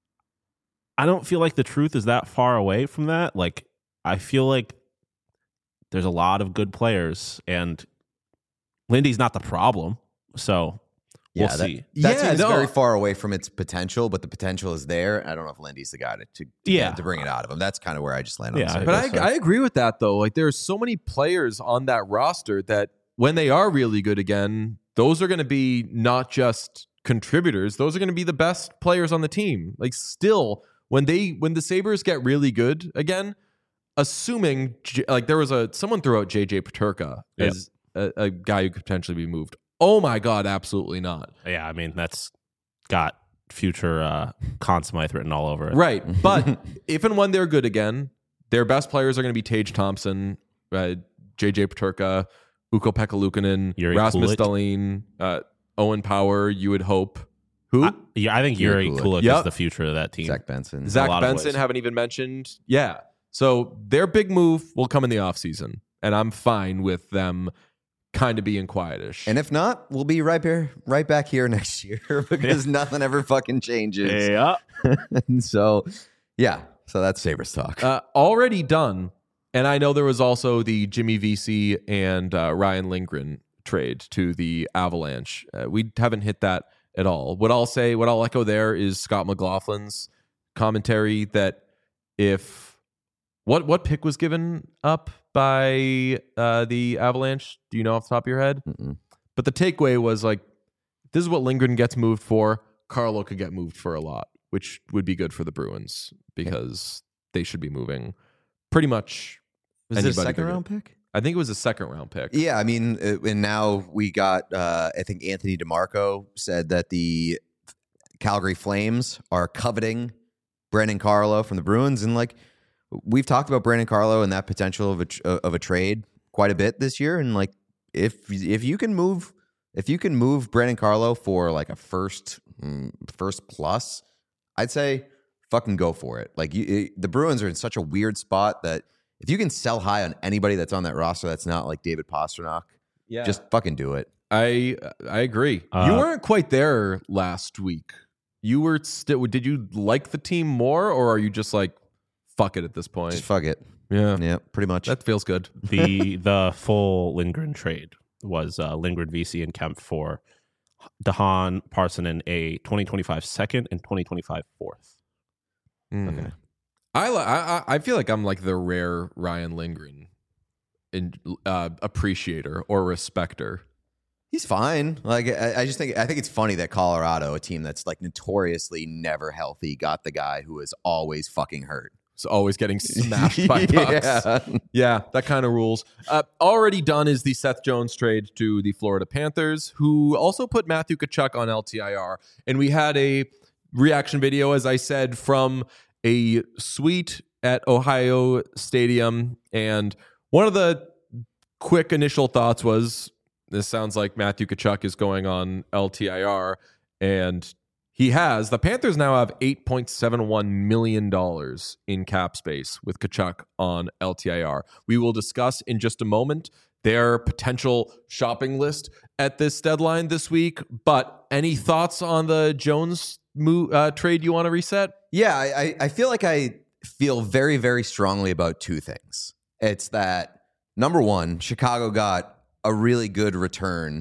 I don't feel like the truth is that far away from that. Like, I feel like there's a lot of good players, and Lindy's not the problem. So we'll yeah, see. That, that Yeah, team's no. very far away from its potential, but the potential is there. I don't know if Lindy's the guy to to, to, Yeah. to bring it out of him. That's kind of where I just land on Yeah, the I Sabres. But guess so. I, I agree with that, though. Like, there's so many players on that roster that when they are really good again, those are going to be not just contributors. Those are going to be the best players on the team. Like, still, when they when the Sabres get really good again, assuming J- like there was a someone threw out J J Peterka Yep. as a, a guy who could potentially be moved. Oh my God, absolutely not. Yeah, I mean, that's got future uh, Conn Smythe written all over it. Right. But if and when they're good again, their best players are going to be Tage Thompson, uh, J J Peterka, Ukko-Pekka Luukkonen, Yuri Rasmus Kulich. Dahlin, uh, Owen Power, you would hope. Who? I, yeah, I think Yuri Yuri Kulich. Kulich Yep. is the future of that team. Zach Benson. Zach a lot of Benson, ways. haven't even mentioned. Yeah. So their big move will come in the offseason, and I'm fine with them kind of being quietish. And if not, we'll be right here, right back here next year because nothing ever fucking changes. Yeah. And so, yeah. So that's Sabres talk. uh, already done. And I know there was also the Jimmy Vesey and uh, Ryan Lindgren trade to the Avalanche. Uh, we haven't hit that at all. What I'll say, what I'll echo there is Scott McLaughlin's commentary that if what what pick was given up by uh, the Avalanche? Do you know off the top of your head? Mm-mm. But the takeaway was like, this is what Lindgren gets moved for. Carlo could get moved for a lot, which would be good for the Bruins because they should be moving pretty much. Was it a anybody second bigger. round pick? I think it was a second round pick. Yeah, I mean, uh, and now we got, uh, I think Anthony DeMarco said that the Calgary Flames are coveting Brandon Carlo from the Bruins. And like, we've talked about Brandon Carlo and that potential of a, tr- of a trade quite a bit this year. And like, if, if you can move, if you can move Brandon Carlo for like a first, mm, first plus, I'd say fucking go for it. Like you, it, the Bruins are in such a weird spot that if you can sell high on anybody that's on that roster that's not like David Pastrnak, Yeah. just fucking do it. I I agree. Uh, you weren't quite there last week. You were still. Did you like the team more, or are you just like fuck it at this point? Just fuck it. yeah, Yeah, pretty much. that feels good. the the full Lindgren trade was uh, Lindgren, Vesey, and Kemp for Dahan, Parsonen, a twenty twenty-five second and twenty twenty-five fourth. Mm. Okay. I, li- I I- I feel like I'm like the rare Ryan Lindgren in, uh, appreciator or respecter. He's fine. Like I, I just think I think it's funny that Colorado, a team that's like notoriously never healthy, got the guy who is always fucking hurt. It's always getting smashed by pucks. Yeah. Yeah, that kind of rules. Uh, already done is the Seth Jones trade to the Florida Panthers, who also put Matthew Tkachuk on L T I R. And we had a reaction video, as I said, from a suite at Ohio Stadium. And one of the quick initial thoughts was, this sounds like Matthew Tkachuk is going on L T I R. And he has. The Panthers now have eight point seven one million dollars in cap space with Tkachuk on L T I R. We will discuss in just a moment their potential shopping list at this deadline this week. But any thoughts on the Jones move, uh, trade you want to reset? Yeah, I, I- I feel like I feel very, very strongly about two things. It's that number one, Chicago got a really good return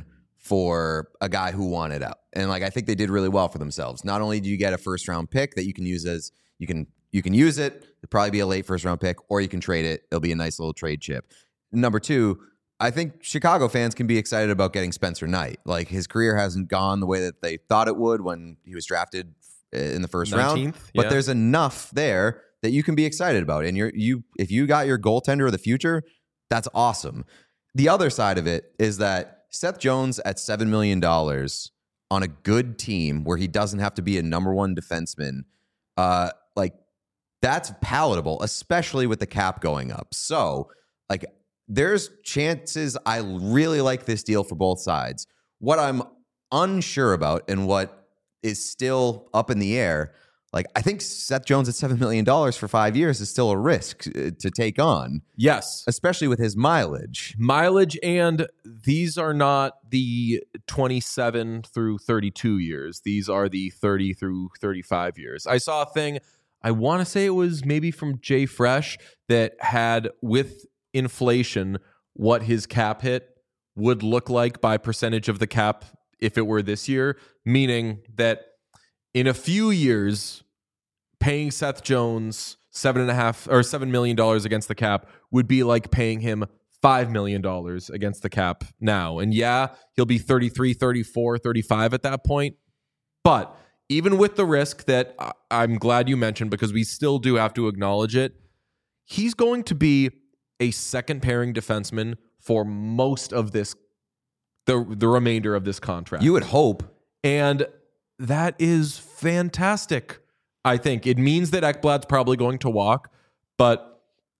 for a guy who wanted out. And like I think they did really well for themselves. Not only do you get a first round pick that you can use as you can you can use it, it'll probably be a late first round pick, or you can trade it. It'll be a nice little trade chip. Number two, I think Chicago fans can be excited about getting Spencer Knight. Like his career hasn't gone the way that they thought it would when he was drafted in the first round. nineteenth, But yeah. there's enough there that you can be excited about. And you're you if you got your goaltender of the future, that's awesome. The other side of it is that Seth Jones at seven million dollars on a good team where he doesn't have to be a number one defenseman, uh, like that's palatable, especially with the cap going up. So, like, there's chances I really like this deal for both sides. What I'm unsure about and what is still up in the air, like, I think Seth Jones at seven million dollars for five years is still a risk to take on. Yes. Especially with his mileage. Mileage, and these are not the twenty-seven through thirty-two years. These are the thirty through thirty-five years. I saw a thing, I want to say it was maybe from Jay Fresh, that had, with inflation, what his cap hit would look like by percentage of the cap if it were this year, meaning that in a few years, paying Seth Jones seven and a half or seven million dollars against the cap would be like paying him five million dollars against the cap now. And yeah, he'll be thirty-three, thirty-four, thirty-five at that point. But even with the risk that I'm glad you mentioned, because we still do have to acknowledge it, he's going to be a second pairing defenseman for most of this, the, the remainder of this contract. You would hope. And that is fantastic. I think it means that Ekblad's probably going to walk, but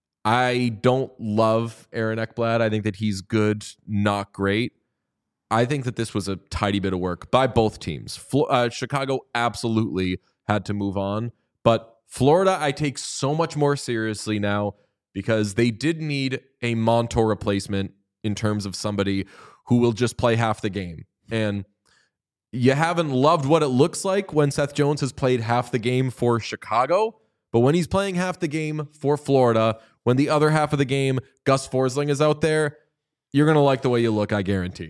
I don't love Aaron Ekblad. I think that he's good, not great. I think that this was a tidy bit of work by both teams. Uh, Chicago absolutely had to move on, but Florida I take so much more seriously now because they did need a Montour replacement in terms of somebody who will just play half the game. And you haven't loved what it looks like when Seth Jones has played half the game for Chicago, but when he's playing half the game for Florida, when the other half of the game, Gus Forsling is out there, you're going to like the way you look, I guarantee.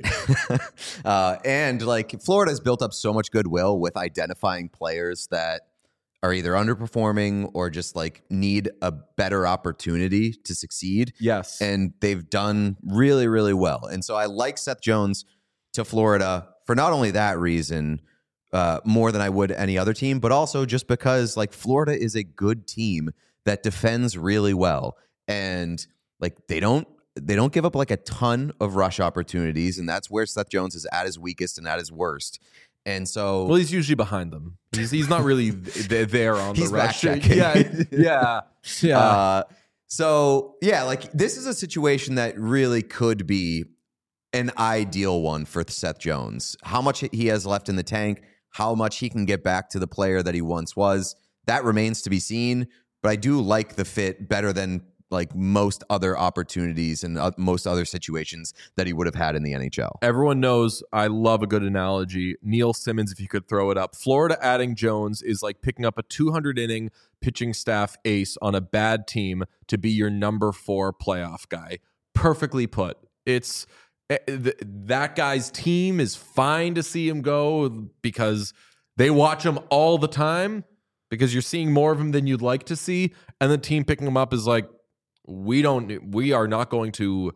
uh, and like Florida's built up so much goodwill with identifying players that are either underperforming or just like need a better opportunity to succeed. Yes. And they've done really, really well. And so I like Seth Jones to Florida for not only that reason, uh, more than I would any other team, but also just because like Florida is a good team that defends really well. And like they don't they don't give up like a ton of rush opportunities. And that's where Seth Jones is at his weakest and at his worst. And so, well, he's usually behind them. He's he's not really th- there on he's the rush. back-checking. Yeah, yeah, yeah. Uh, so yeah, like this is a situation that really could be an ideal one for Seth Jones. How much he has left in the tank, how much he can get back to the player that he once was, that remains to be seen. But I do like the fit better than like most other opportunities and uh, most other situations that he would have had in the N H L. Everyone knows I love a good analogy. Neil Simmons, if you could throw it up. Florida adding Jones is like picking up a two hundred inning pitching staff ace on a bad team to be your number four playoff guy. Perfectly put. It's that guy's team is fine to see him go because they watch him all the time because you're seeing more of him than you'd like to see. And the team picking him up is like, we don't, we are not going to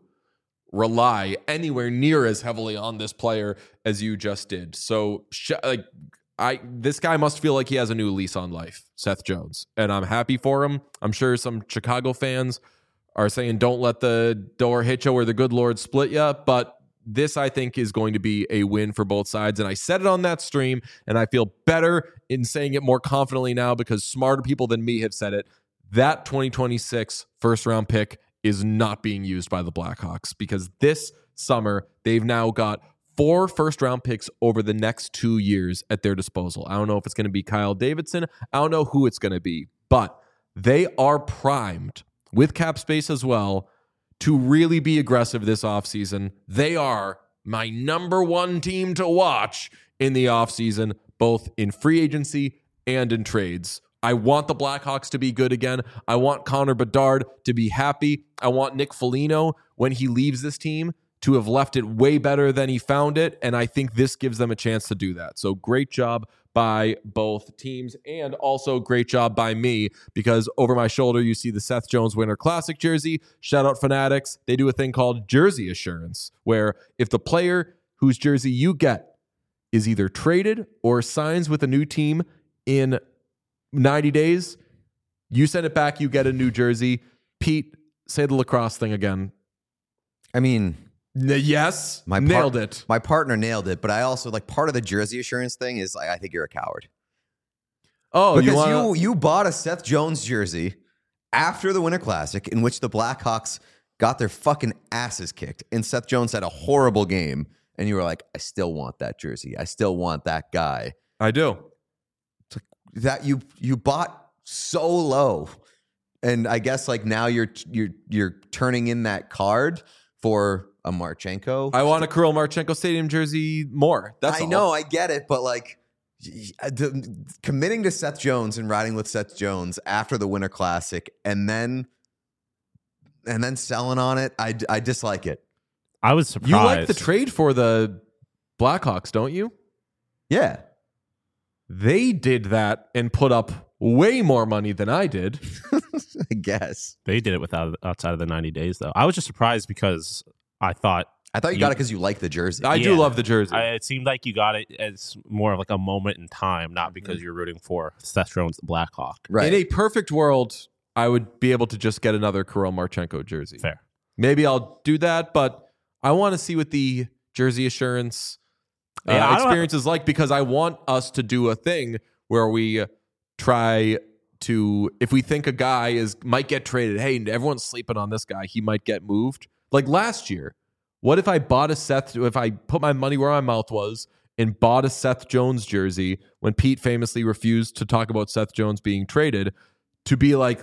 rely anywhere near as heavily on this player as you just did. So like I, this guy must feel like he has a new lease on life, Seth Jones. And I'm happy for him. I'm sure some Chicago fans are saying, don't let the door hit you or the good Lord split you. But this, I think, is going to be a win for both sides. And I said it on that stream, and I feel better in saying it more confidently now because smarter people than me have said it. That twenty twenty-six first round pick is not being used by the Blackhawks because this summer they've now got four first round picks over the next two years at their disposal. I don't know if it's going to be Kyle Davidson. I don't know who it's going to be, but they are primed with cap space as well to really be aggressive this offseason. They are my number one team to watch in the offseason, both in free agency and in trades. I want the Blackhawks to be good again. I want Connor Bedard to be happy. I want Nick Foligno, when he leaves this team, to have left it way better than he found it. And I think this gives them a chance to do that. So great job by both teams and also great job by me because over my shoulder, you see the Seth Jones Winter Classic jersey. Shout out Fanatics. They do a thing called jersey assurance where if the player whose jersey you get is either traded or signs with a new team in ninety days, You send it back, you get a new jersey. Pete, say the lacrosse thing again. I mean, N- yes, my par- nailed it. My partner nailed it, but I also like part of the jersey assurance thing is like I think you're a coward. Oh, Because you want you, you bought a Seth Jones jersey after the Winter Classic in which the Blackhawks got their fucking asses kicked, and Seth Jones had a horrible game, and you were like, I still want that jersey. I still want that guy. I do. That you you bought so low, and I guess like now you're you're you're turning in that card for a Marchenko. I want a Kirill Marchenko Stadium jersey more. That's I all. know, I get it, but like the, committing to Seth Jones and riding with Seth Jones after the Winter Classic, and then and then selling on it, I, I dislike it. I was surprised. You like the trade for the Blackhawks, don't you? Yeah, They did that and put up way more money than I did. I guess. They did it without outside of the ninety days, though. I was just surprised because I thought I thought you, You- got it because you like the jersey. I do Yeah. love the jersey. I, it seemed like you got it as more of like a moment in time, not because you're rooting for Seth Jones, the Blackhawk. right. In a perfect world, I would be able to just get another Kirill Marchenko jersey. Fair. Maybe I'll do that, but I want to see what the jersey assurance uh, Yeah, I don't- experience is like, because I want us to do a thing where we try to, if we think a guy is might get traded, hey, everyone's sleeping on this guy, he might get moved. Like last year, what if I bought a Seth, if I put my money where my mouth was and bought a Seth Jones jersey when Pete famously refused to talk about Seth Jones being traded, to be like,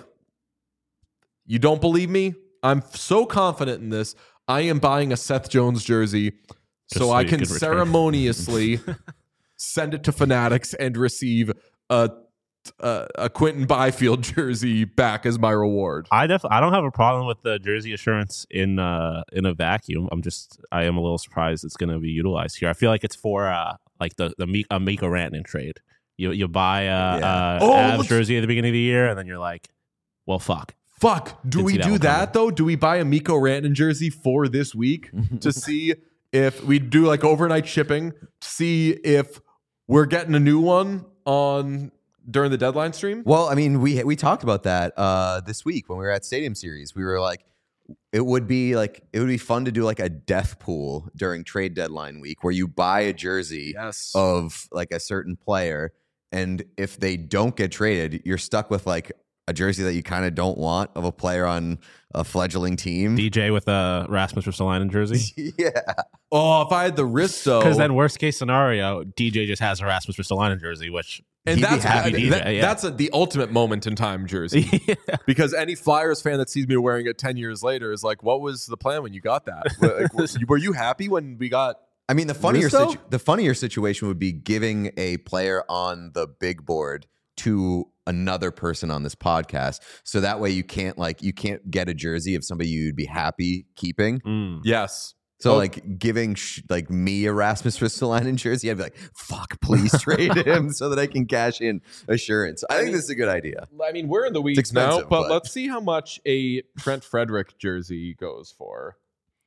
you don't believe me? I'm so confident in this. I am buying a Seth Jones jersey Just so, so I you can can return. ceremoniously send it to Fanatics and receive a a, a Quentin Byfield jersey back as my reward. I definitely I don't have a problem with the jersey assurance in uh in a vacuum. I'm just I am a little surprised it's going to be utilized here. I feel like it's for uh like the the Mik- a Mikko Rantanen trade. You you buy a, Yeah. a Oh, Avs let's- jersey at the beginning of the year, and then you're like, well, fuck. Fuck. Do Didn't we see that do one that though? Do we buy a Mikko Rantanen jersey for this week to see if we do like overnight shipping, to see if we're getting a new one on during the deadline stream? Well, I mean, we we talked about that uh, this week when we were at Stadium Series. We were like, it would be like it would be fun to do like a death pool during trade deadline week where you buy a jersey Yes. of like a certain player, and if they don't get traded, you're stuck with like a jersey that you kind of don't want of a player on a fledgling team. D J with a Rasmus Ristolainen jersey. yeah, Oh, if I had the wrist though. Because then, worst case scenario, D J just has a Rasmus Ristolainen jersey, which And He'd be that's happy. that- D J, that- yeah. that's a, the ultimate moment in time jersey. yeah. Because any Flyers fan that sees me wearing it ten years later is like, what was the plan when you got that? Like, were, were you happy when we got. I mean, the funnier Risto? situ- the funnier situation would be giving a player on the big board to another person on this podcast, so that way you can't like you can't get a jersey of somebody you'd be happy keeping. Mm. Yes. So Oh. like giving sh- like me a Rasmus Ristolainen jersey, I'd be like, "Fuck, please trade him so that I can cash in assurance." I think this is a good idea. I mean, we're in the weeds expensive, now, but, but- let's see how much a Trent Frederick jersey goes for.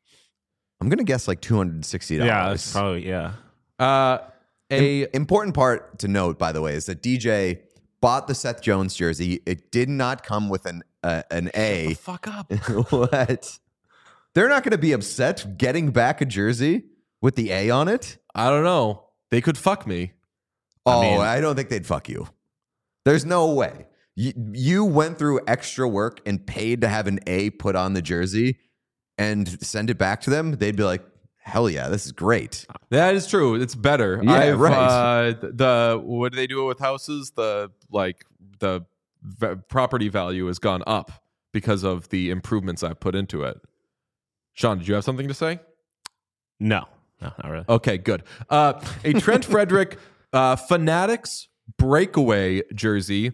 I'm gonna guess like two hundred and sixty dollars. Yeah, that's probably yeah. Uh, a important part to note, by the way, is that D J bought the Seth Jones jersey. It did not come with an uh, an A. fuck up. What? They're not going to be upset getting back a jersey with the A on it. I don't know. They could fuck me. Oh, mean- I don't think they'd fuck you. There's no way. You, you went through extra work and paid to have an A put on the jersey and send it back to them. They'd be like, hell yeah, this is great. That is true. It's better. Yeah, I've, right. Uh, the what do they do with houses? The like the v- property value has gone up because of the improvements I've put into it. Sean, did you have something to say? No, no, not really. Okay, good. Uh, a Trent Frederick uh, Fanatics breakaway jersey.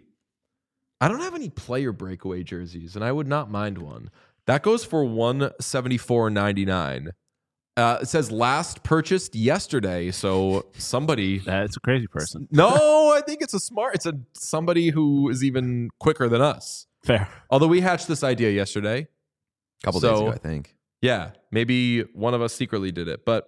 I don't have any player breakaway jerseys, and I would not mind one. That goes for one seventy four ninety nine. Uh, it says last purchased yesterday, so somebody. That's a crazy person. No, I think it's a smart. It's a somebody who is even quicker than us. Fair. Although we hatched this idea yesterday. A couple So- days ago, I think. Yeah, maybe one of us secretly did it, but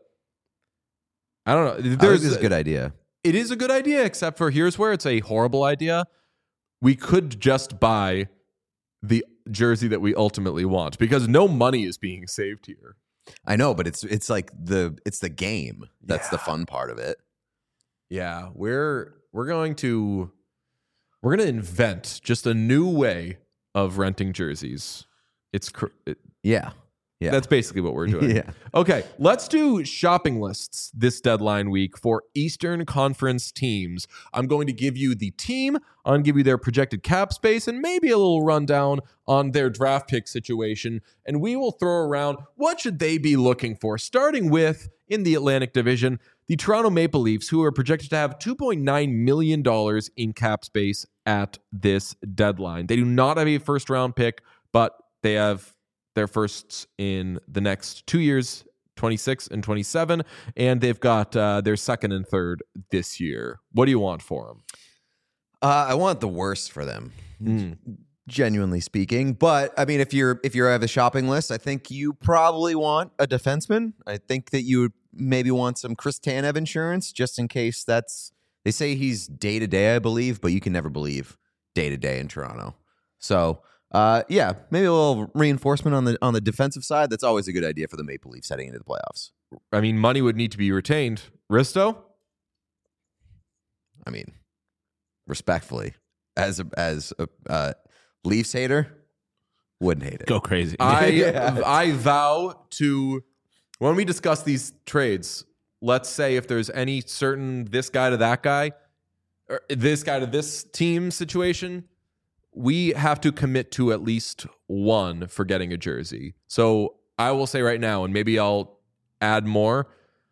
I don't know. I think There's this is a good idea. It is a good idea, except for here's where it's a horrible idea. we could just buy the jersey that we ultimately want because no money is being saved here. I know, but it's it's like the it's the game. That's Yeah. the fun part of it. Yeah, we're we're going to we're going to invent just a new way of renting jerseys. It's cr- it, Yeah. Yeah. That's basically what we're doing. Yeah. Okay, let's do shopping lists this deadline week for Eastern Conference teams. I'm going to give you the team, I'm going to give you their projected cap space, and maybe a little rundown on their draft pick situation. And we will throw around what should they be looking for, starting with, in the Atlantic Division, the Toronto Maple Leafs, who are projected to have two point nine million dollars in cap space at this deadline. They do not have a first-round pick, but they have their firsts in the next two years, twenty-six and twenty-seven, and they've got uh, their second and third this year. What do you want for them? Uh, I want the worst for them, Mm. genuinely speaking. But I mean, if you're if you have a shopping list, I think you probably want a defenseman. I think that you would maybe want some Chris Tanev insurance just in case. That's they say he's day to day, I believe, but you can never believe day to day in Toronto. So. Uh, yeah, maybe a little reinforcement on the on the defensive side. That's always a good idea for the Maple Leafs heading into the playoffs. I mean, money would need to be retained. Risto? I mean, respectfully, as a as a uh, Leafs hater, wouldn't hate it. Go crazy. I Yeah. I vow to, when we discuss these trades, let's say if there's any certain this guy to that guy, or this guy to this team situation, we have to commit to at least one for getting a jersey. So I will say right now, and maybe I'll add more.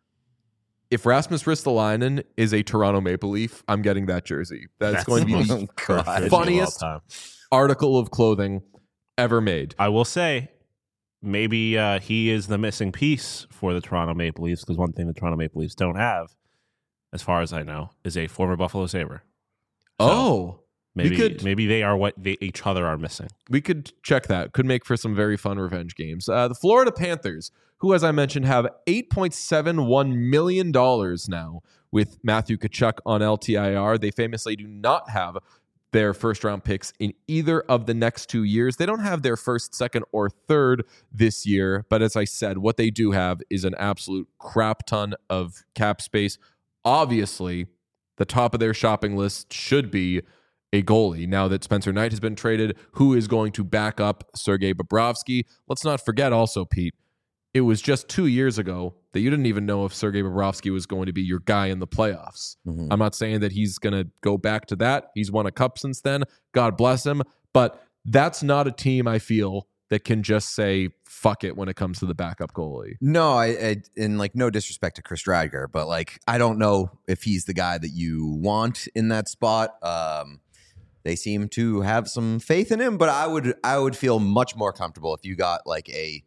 If Rasmus Ristolainen is a Toronto Maple Leaf, I'm getting that jersey. That's, That's going to be the the most perfect funniest of all time. article of clothing ever made. I will say, maybe uh, he is the missing piece for the Toronto Maple Leafs because one thing the Toronto Maple Leafs don't have, as far as I know, is a former Buffalo Sabre. So Oh, maybe we could maybe they are what they, each other are missing. we could check that. Could make for some very fun revenge games. Uh, the Florida Panthers, who, as I mentioned, have eight point seven one million dollars now with Matthew Tkachuk on L T I R. They famously do not have their first round picks in either of the next two years. They don't have their first, second, or third this year. But as I said, what they do have is an absolute crap ton of cap space. Obviously, the top of their shopping list should be a goalie. Now that Spencer Knight has been traded, who is going to back up Sergei Bobrovsky? Let's not forget also, Pete, it was just two years ago that you didn't even know if Sergei Bobrovsky was going to be your guy in the playoffs. Mhm. I'm not saying that he's going to go back to that. He's won a cup since then. God bless him. But that's not a team, I feel, that can just say, fuck it when it comes to the backup goalie. No, I, I and like no disrespect to Chris Driedger, but like I don't know if he's the guy that you want in that spot. Um, they seem to have some faith in him, but I would I would feel much more comfortable if you got like a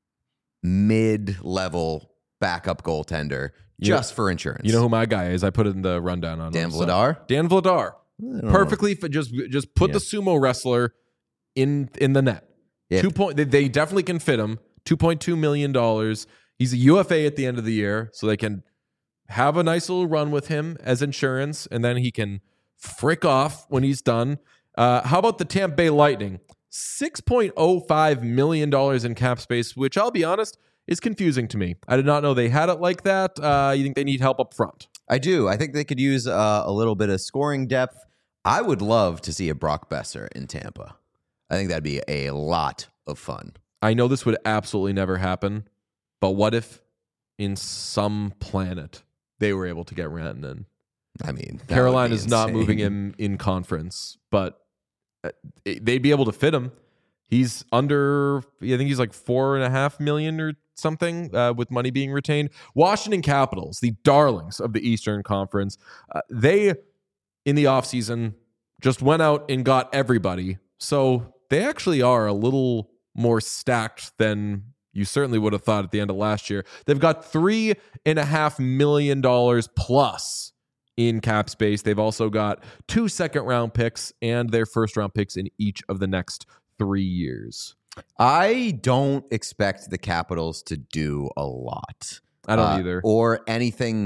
mid-level backup goaltender You just for insurance. You know who my guy is? I put it in the rundown on Dan him, so- Vladar? Dan Vladar. I don't know. Perfectly fit. Just just put Yeah. the sumo wrestler in in the net. Yeah. Two point. They, they definitely can fit him. Two point two million dollars. He's a U F A at the end of the year, so they can have a nice little run with him as insurance, and then he can frick off when he's done. Uh, how about the Tampa Bay Lightning? six point oh five million dollars in cap space, which I'll be honest is confusing to me. I did not know they had it like that. Uh, you think they need help up front? I do. I think they could use uh, a little bit of scoring depth. I would love to see a Brock Besser in Tampa. I think that'd be a lot of fun. I know this would absolutely never happen, but what if in some planet they were able to get Rantanen? I mean, that Carolina would be is not insane. moving him in conference, but uh, it- they'd be able to fit him. He's under, I think he's like four and a half million or something uh, with money being retained. Washington Capitals, the darlings of the Eastern Conference, uh, they in the offseason just went out and got everybody. So they actually are a little more stacked than you certainly would have thought at the end of last year. They've got three and a half million dollars plus in cap space. They've also got two second round picks and their first round picks in each of the next three years. I don't expect the Capitals to do a lot. I don't Uh, either. Or anything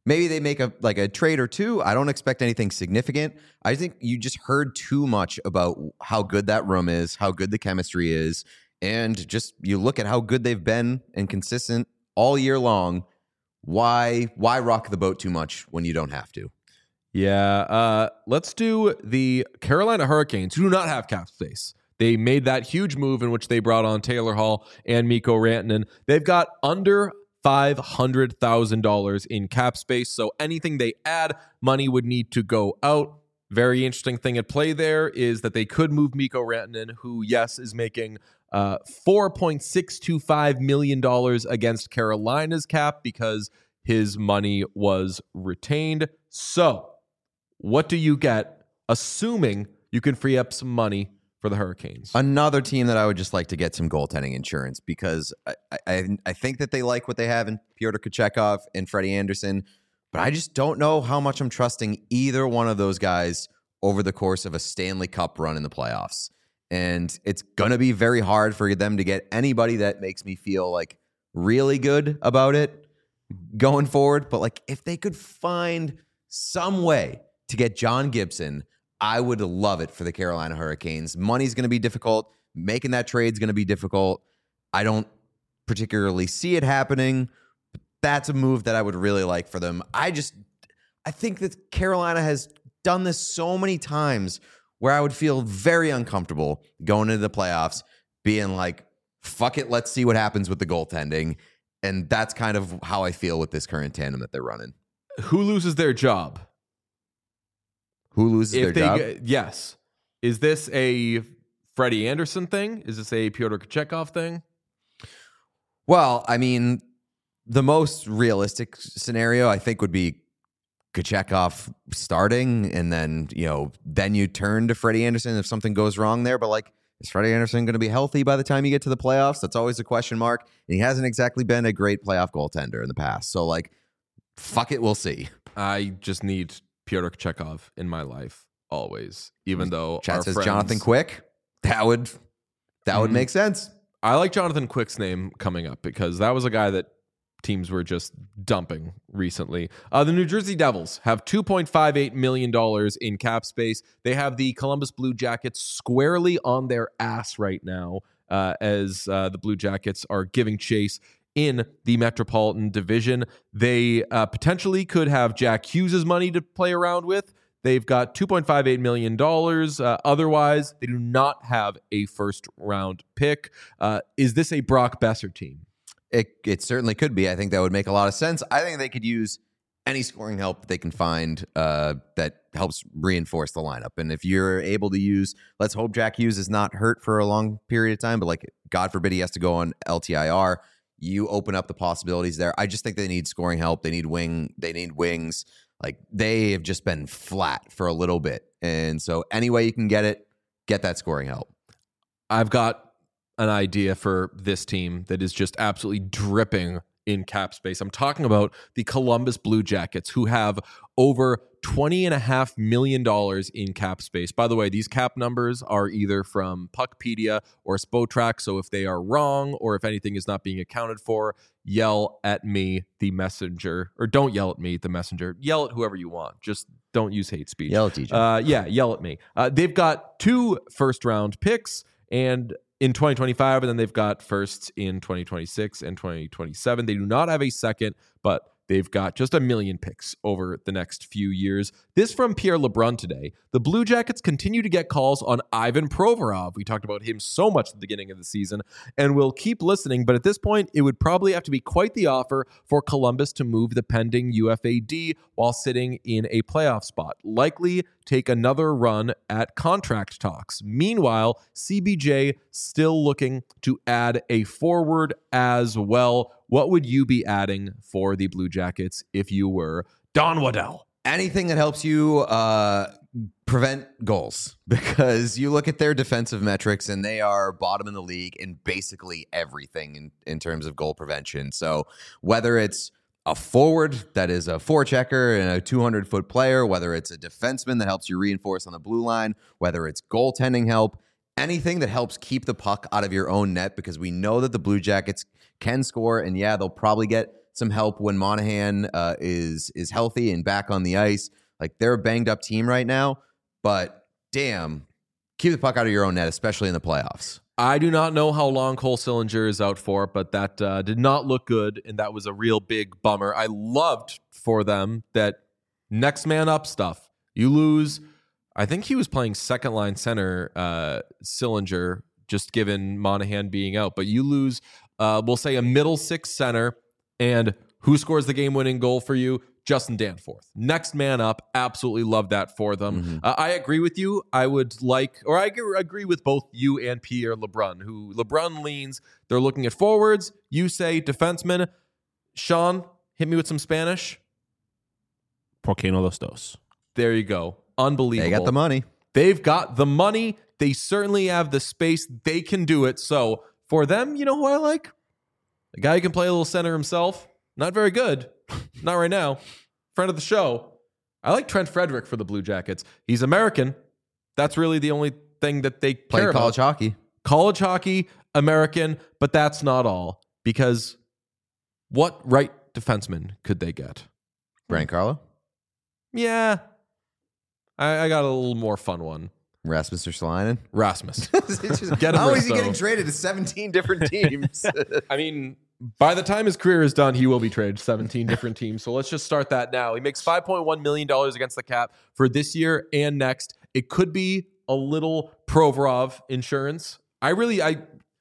Maybe they make a like a trade or two. I don't expect anything significant. I think you just heard too much about how good that room is, how good the chemistry is, and just you look at how good they've been and consistent all year long. Why why rock the boat too much when you don't have to? Yeah, uh, let's do the Carolina Hurricanes, who do not have cap space. They made that huge move in which they brought on Taylor Hall and Mikko Rantanen. They've got under five hundred thousand dollars in cap space, so anything they add, money would need to go out. Very interesting thing at play there is that they could move Mikko Rantanen, who, yes, is making uh, four point six two five million dollars against Carolina's cap because his money was retained. So, what do you get, assuming you can free up some money for the Hurricanes? Another team that I would just like to get some goaltending insurance because I, I, I think that they like what they have in Pyotr Kochetkov and Freddie Anderson, but I just don't know how much I'm trusting either one of those guys over the course of a Stanley Cup run in the playoffs. And it's going to be very hard for them to get anybody that makes me feel like really good about it going forward. But like if they could find some way to get John Gibson, I would love it for the Carolina Hurricanes. Money's going to be difficult. Making that trade is going to be difficult. I don't particularly see it happening, but that's a move that I would really like for them. I just, I think that Carolina has done this so many times where I would feel very uncomfortable going into the playoffs, being like, fuck it, let's see what happens with the goaltending. And that's kind of how I feel with this current tandem that they're running. Who loses their job? Who loses If their they, job? Yes. Is this a Freddie Anderson thing? Is this a Pyotr Kochetkov thing? Well, I mean, the most realistic scenario, I think, would be Kochetkov starting, and then, you know, then you turn to Freddie Anderson if something goes wrong there. But, like, is Freddie Anderson going to be healthy by the time you get to the playoffs? That's always a question mark. And he hasn't exactly been a great playoff goaltender in the past. So, like, fuck it, we'll see. I just need Pyotr Kochetkov in my life always, even though Chat our says friends, Jonathan Quick. That would that would Mhm. make sense. I like Jonathan Quick's name coming up because that was a guy that teams were just dumping recently. Uh, the New Jersey Devils have two point five eight million dollars in cap space. They have the Columbus Blue Jackets squarely on their ass right now uh, as uh, the Blue Jackets are giving chase in the Metropolitan Division. They uh, potentially could have Jack Hughes' money to play around with. They've got two point five eight million dollars. Uh, otherwise, they do not have a first-round pick. Uh, is this a Brock Besser team? It it certainly could be. I think that would make a lot of sense. I think they could use any scoring help that they can find uh, that helps reinforce the lineup. And if you're able to use, let's hope Jack Hughes is not hurt for a long period of time, but like God forbid he has to go on L T I R. You open up the possibilities there. I just think they need scoring help. They need wing. They need wings. Like they have just been flat for a little bit. And so any way you can get it, get that scoring help. I've got an idea for this team that is just absolutely dripping in cap space. I'm talking about the Columbus Blue Jackets, who have over twenty and a half million dollars in cap space. By the way, these cap numbers are either from Puckpedia or Spotrac. So if they are wrong or if anything is not being accounted for, yell at me, the messenger, or don't yell at me, the messenger. Yell at whoever you want. Just don't use hate speech. Yell at T J. Uh, yeah, yell at me. Uh, they've got two first round picks and in twenty twenty-five, and then they've got firsts in twenty twenty-six and twenty twenty-seven. They do not have a second, but they've got just a million picks over the next few years. This from Pierre LeBrun today. The Blue Jackets continue to get calls on Ivan Provorov. We talked about him so much at the beginning of the season, and we'll keep listening, but at this point, it would probably have to be quite the offer for Columbus to move the pending U F A D while sitting in a playoff spot. Likely take another run at contract talks. Meanwhile, C B J still looking to add a forward as well. What would you be adding for the Blue Jackets if you were Don Waddell? Anything that helps you uh, prevent goals, because you look at their defensive metrics and they are bottom in the league in basically everything in, in terms of goal prevention. So whether it's a forward that is a forechecker and a two hundred foot player, whether it's a defenseman that helps you reinforce on the blue line, whether it's goaltending help, anything that helps keep the puck out of your own net, because we know that the Blue Jackets can score, and yeah, they'll probably get some help when Monahan uh, is is healthy and back on the ice. Like, they're a banged up team right now, but damn, keep the puck out of your own net, especially in the playoffs. I do not know how long Cole Sillinger is out for, but that uh, did not look good, and that was a real big bummer. I loved for them that next man up stuff. You lose, I think he was playing second line center, uh, Sillinger, just given Monahan being out, but you lose, uh, we'll say a middle six center, and who scores the game-winning goal for you? Justin Danforth. Next man up. Absolutely love that for them. Mm-hmm. Uh, I agree with you. I would like, or I agree with both you and Pierre LeBrun, who LeBrun leans. They're looking at forwards. You say defensemen. Sean, hit me with some Spanish. Por qué no los dos? There you go. Unbelievable. They got the money. They've got the money. They certainly have the space. They can do it. So for them, you know who I like? A guy who can play a little center himself. Not very good. Not right now. Friend of the show. I like Trent Frederick for the Blue Jackets. He's American. That's really the only thing that they play care college about. hockey. College hockey, American, but that's not all. Because what right defenseman could they get? Brian Carlo? Yeah. I, I got a little more fun one. Rasmus Ristolainen? Rasmus. Just, Get him how is he Risto. getting traded to seventeen different teams? I mean, by the time his career is done, he will be traded to seventeen different teams. So let's just start that now. He makes five point one million dollars against the cap for this year and next. It could be a little Provorov insurance. I really, I,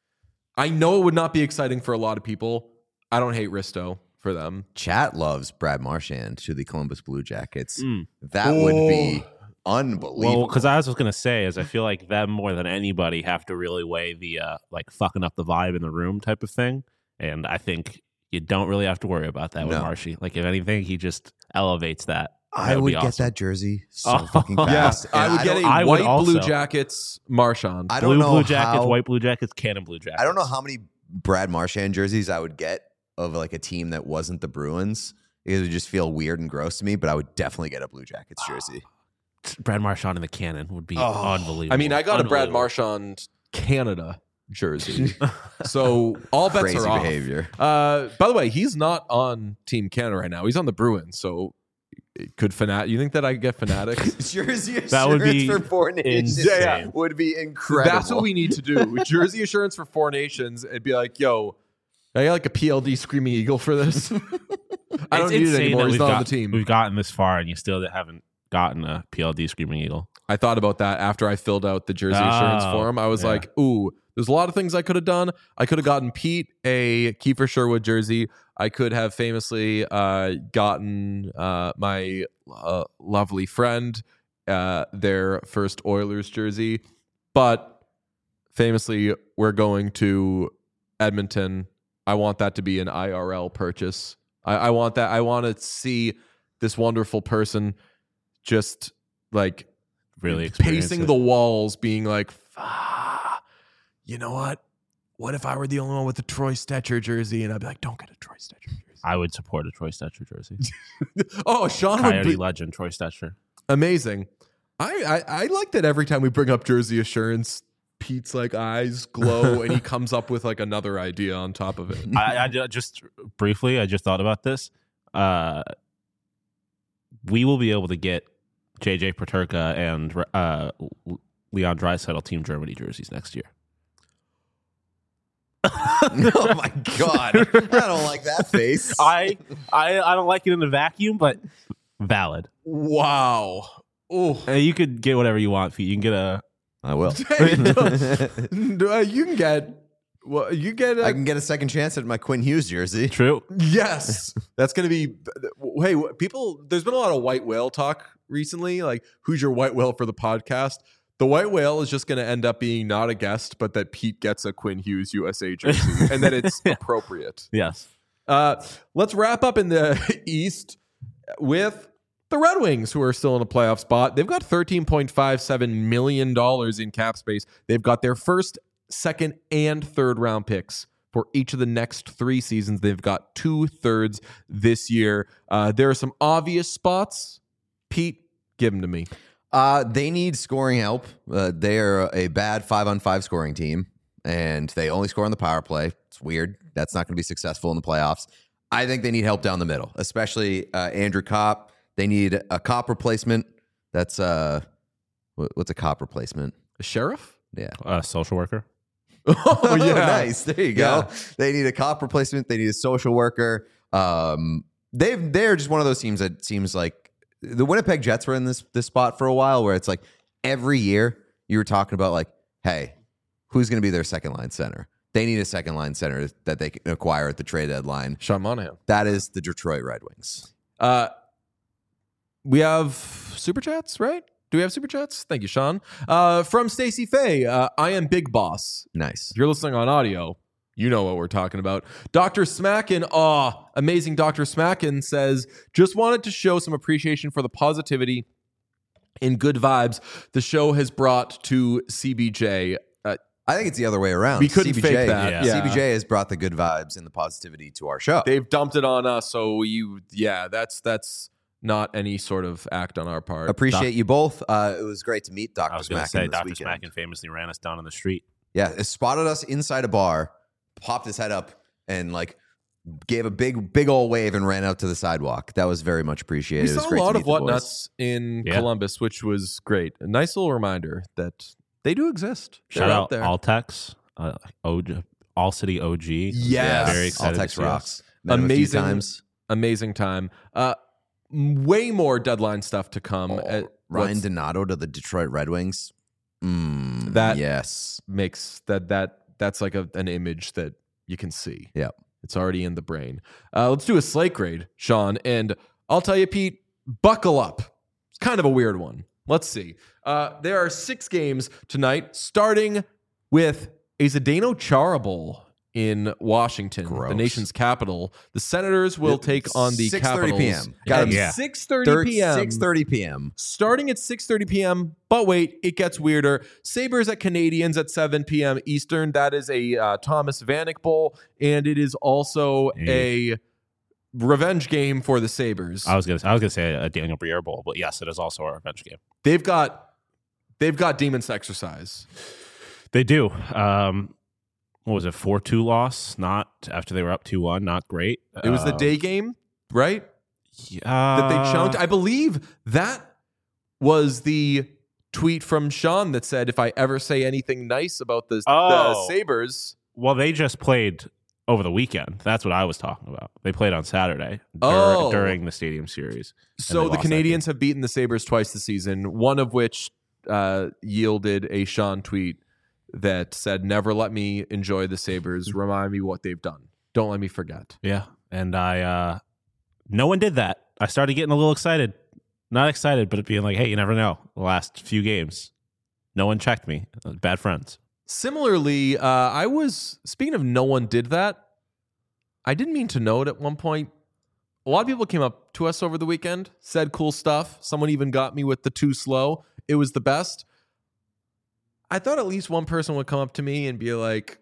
I know it would not be exciting for a lot of people. I don't hate Risto for them. Chat loves Brad Marchand to the Columbus Blue Jackets. Mm. That Oh. would be unbelievable. Well, because I was going to say is I feel like them more than anybody have to really weigh the uh, like fucking up the vibe in the room type of thing. And I think you don't really have to worry about that with No. Marshy. Like, if anything, he just elevates that. I That would would be get awesome. that jersey so Oh, fucking yeah. fast. I And would get don't- a I would white Blue also. Jackets Marchand. I don't Blue know Blue Jackets, how- white Blue Jackets, Cannon Blue Jackets. I don't know how many Brad Marchand jerseys I would get of like a team that wasn't the Bruins. It would just feel weird and gross to me, but I would definitely get a Blue Jackets jersey. Brad Marchand in the Cannon would be Oh. unbelievable. I mean, I got a Brad Unbelievable. Marchand Canada jersey. So all bets Crazy are off. behavior. Uh, by the way, he's not on Team Canada right now. He's on the Bruins. So it could Fanat. You think that I could get Fanatics? Jersey That would assurance be for four nations insane. Yeah, yeah. would be incredible. That's what we need to do. Jersey assurance for four nations. It'd be like, yo, I got like a P L D Screaming Eagle for this. I don't It's need it insane anymore. that He's we've not got- on the team. We've gotten this far, and you still haven't gotten a P L D Screaming Eagle. I thought about that after I filled out the jersey assurance Oh, form. I was yeah. like, ooh, there's a lot of things I could have done. I could have gotten Pete a Kiefer Sherwood jersey. I could have famously uh, gotten uh, my uh, lovely friend uh, their first Oilers jersey. But famously, we're going to Edmonton. I want that to be an I R L purchase. I, I want that. I want to see this wonderful person just like Really experience pacing it. the walls, being like, ah, you know what? What if I were the only one with the Troy Stetcher jersey? And I'd be like, don't get a Troy Stetcher jersey. I would support a Troy Stetcher jersey. Oh, Sean would Coyote be legend, Troy Stetcher. amazing. I, I I like that every time we bring up jersey assurance, Pete's like eyes glow and he comes up with like another idea on top of it. I, I ju- just briefly, I just thought about this. Uh, we will be able to get J J Paterka and uh, Leon Draisaitl Team Germany jerseys next year. Oh my god, I don't like that face. I, I I don't like it in a vacuum, but valid. Wow. Oh. Uh, you could get whatever you want, Pete. You can get a. I will. Uh, you can get well, you get a, I can get a second chance at my Quinn Hughes jersey. True. yes. That's going to be hey, people there's been a lot of white whale talk recently, like who's your white whale for the podcast? The white whale is just going to end up being not a guest, but that Pete gets a Quinn Hughes U S A jersey and that it's appropriate. Yes. Uh, let's wrap up in the East with the Red Wings, who are still in a playoff spot. They've got thirteen point five seven million dollars in cap space. They've got their first, second, and third round picks for each of the next three seasons. They've got two thirds this year. Uh, there are some obvious spots. Pete, give them to me. Uh, they need scoring help. Uh, they are a bad five-on-five scoring team, and they only score on the power play. It's weird. That's not going to be successful in the playoffs. I think they need help down the middle, especially uh, Andrew Kopp. They need a cop replacement. That's uh, what's a cop replacement? A sheriff? Yeah. Uh, social worker. Oh, yeah. Nice. There you go. Yeah. They need a cop replacement. They need a social worker. Um, they've they're just one of those teams that seems like the Winnipeg Jets were in this this spot for a while, where it's like every year you were talking about like, hey, who's going to be their second line center? They need a second line center that they can acquire at the trade deadline. Sean Monahan. That is the Detroit Red Wings. Uh, we have super chats, right? Do we have super chats? Thank you, Sean. Uh, from Stacey Fay, uh, I am Big Boss. Nice. If you're listening on audio, you know what we're talking about. Doctor Smackin, aw, amazing Doctor Smackin says, just wanted to show some appreciation for the positivity and good vibes the show has brought to C B J. Uh, I think it's the other way around. we couldn't C B J, fake that. yeah. Yeah. C B J has brought the good vibes and the positivity to our show. They've dumped it on us, so you, yeah, that's that's not any sort of act on our part. Appreciate Doc- you both. Uh, it was great to meet I Doctor was going to Smackin say, this Doctor weekend. Smackin famously ran us down on the street. Yeah, it spotted us inside a bar, popped his head up, and like gave a big, big old wave and ran out to the sidewalk. That was very much appreciated. We It was saw a great to lot meet of the boys. whatnuts in Yeah. Columbus, which was great. A nice little reminder that they do exist. Shout They're out there. Altex, uh, O G, All City O G. Yes. Very excited All to Tex see rocks. us. Met him a few Amazing. times. Amazing time. Uh, m- way more deadline stuff to come. Oh, Uh, Ryan what's- Donato to the Detroit Red Wings. Mm, That- yes. makes that that that's like a, an image that you can see. Yep. It's already in the brain. Uh, let's do a slate grade, Sean. And I'll tell you, Pete, buckle up. It's kind of a weird one. Let's see. Uh, there are six games tonight, starting with a Zdeno Chara Bowl in Washington, Gross. the nation's capital. The Senators will take on the six thirty Capitals p.m. Got at it. Yeah. six thirty p.m. six thirty p.m. Starting at six thirty p.m. But wait, it gets weirder. Sabres at Canadians at seven p.m. Eastern. That is a uh, Thomas Vanek Bowl, and it is also a revenge game for the Sabres. I was gonna, I was gonna say a Daniel Briere Bowl, but yes, it is also a revenge game. They've got, they've got demons to exercise. They do. Um, what was it? four two loss. Not after they were up two one. Not great. It was the Uh, day game, right? Yeah, That they chunked. I believe that was the tweet from Sean that said, "If I ever say anything nice about the, the Oh. Sabres." Well, they just played over the weekend. That's what I was talking about. They played on Saturday dur- Oh. during the Stadium Series. So they the lost that Canadians have beaten the Sabres twice this season, one of which uh, yielded a Sean tweet that said, "Never let me enjoy the Sabres. Remind me what they've done. Don't let me forget." Yeah, and I, uh, no one did that. I started getting a little excited. Not excited, but it being like, hey, you never know. The last few games, no one checked me. Bad friends. Similarly, uh, I was, speaking of no one did that, I didn't mean to note at one point, a lot of people came up to us over the weekend, said cool stuff. Someone even got me with the too slow. It was the best. I thought at least one person would come up to me and be like,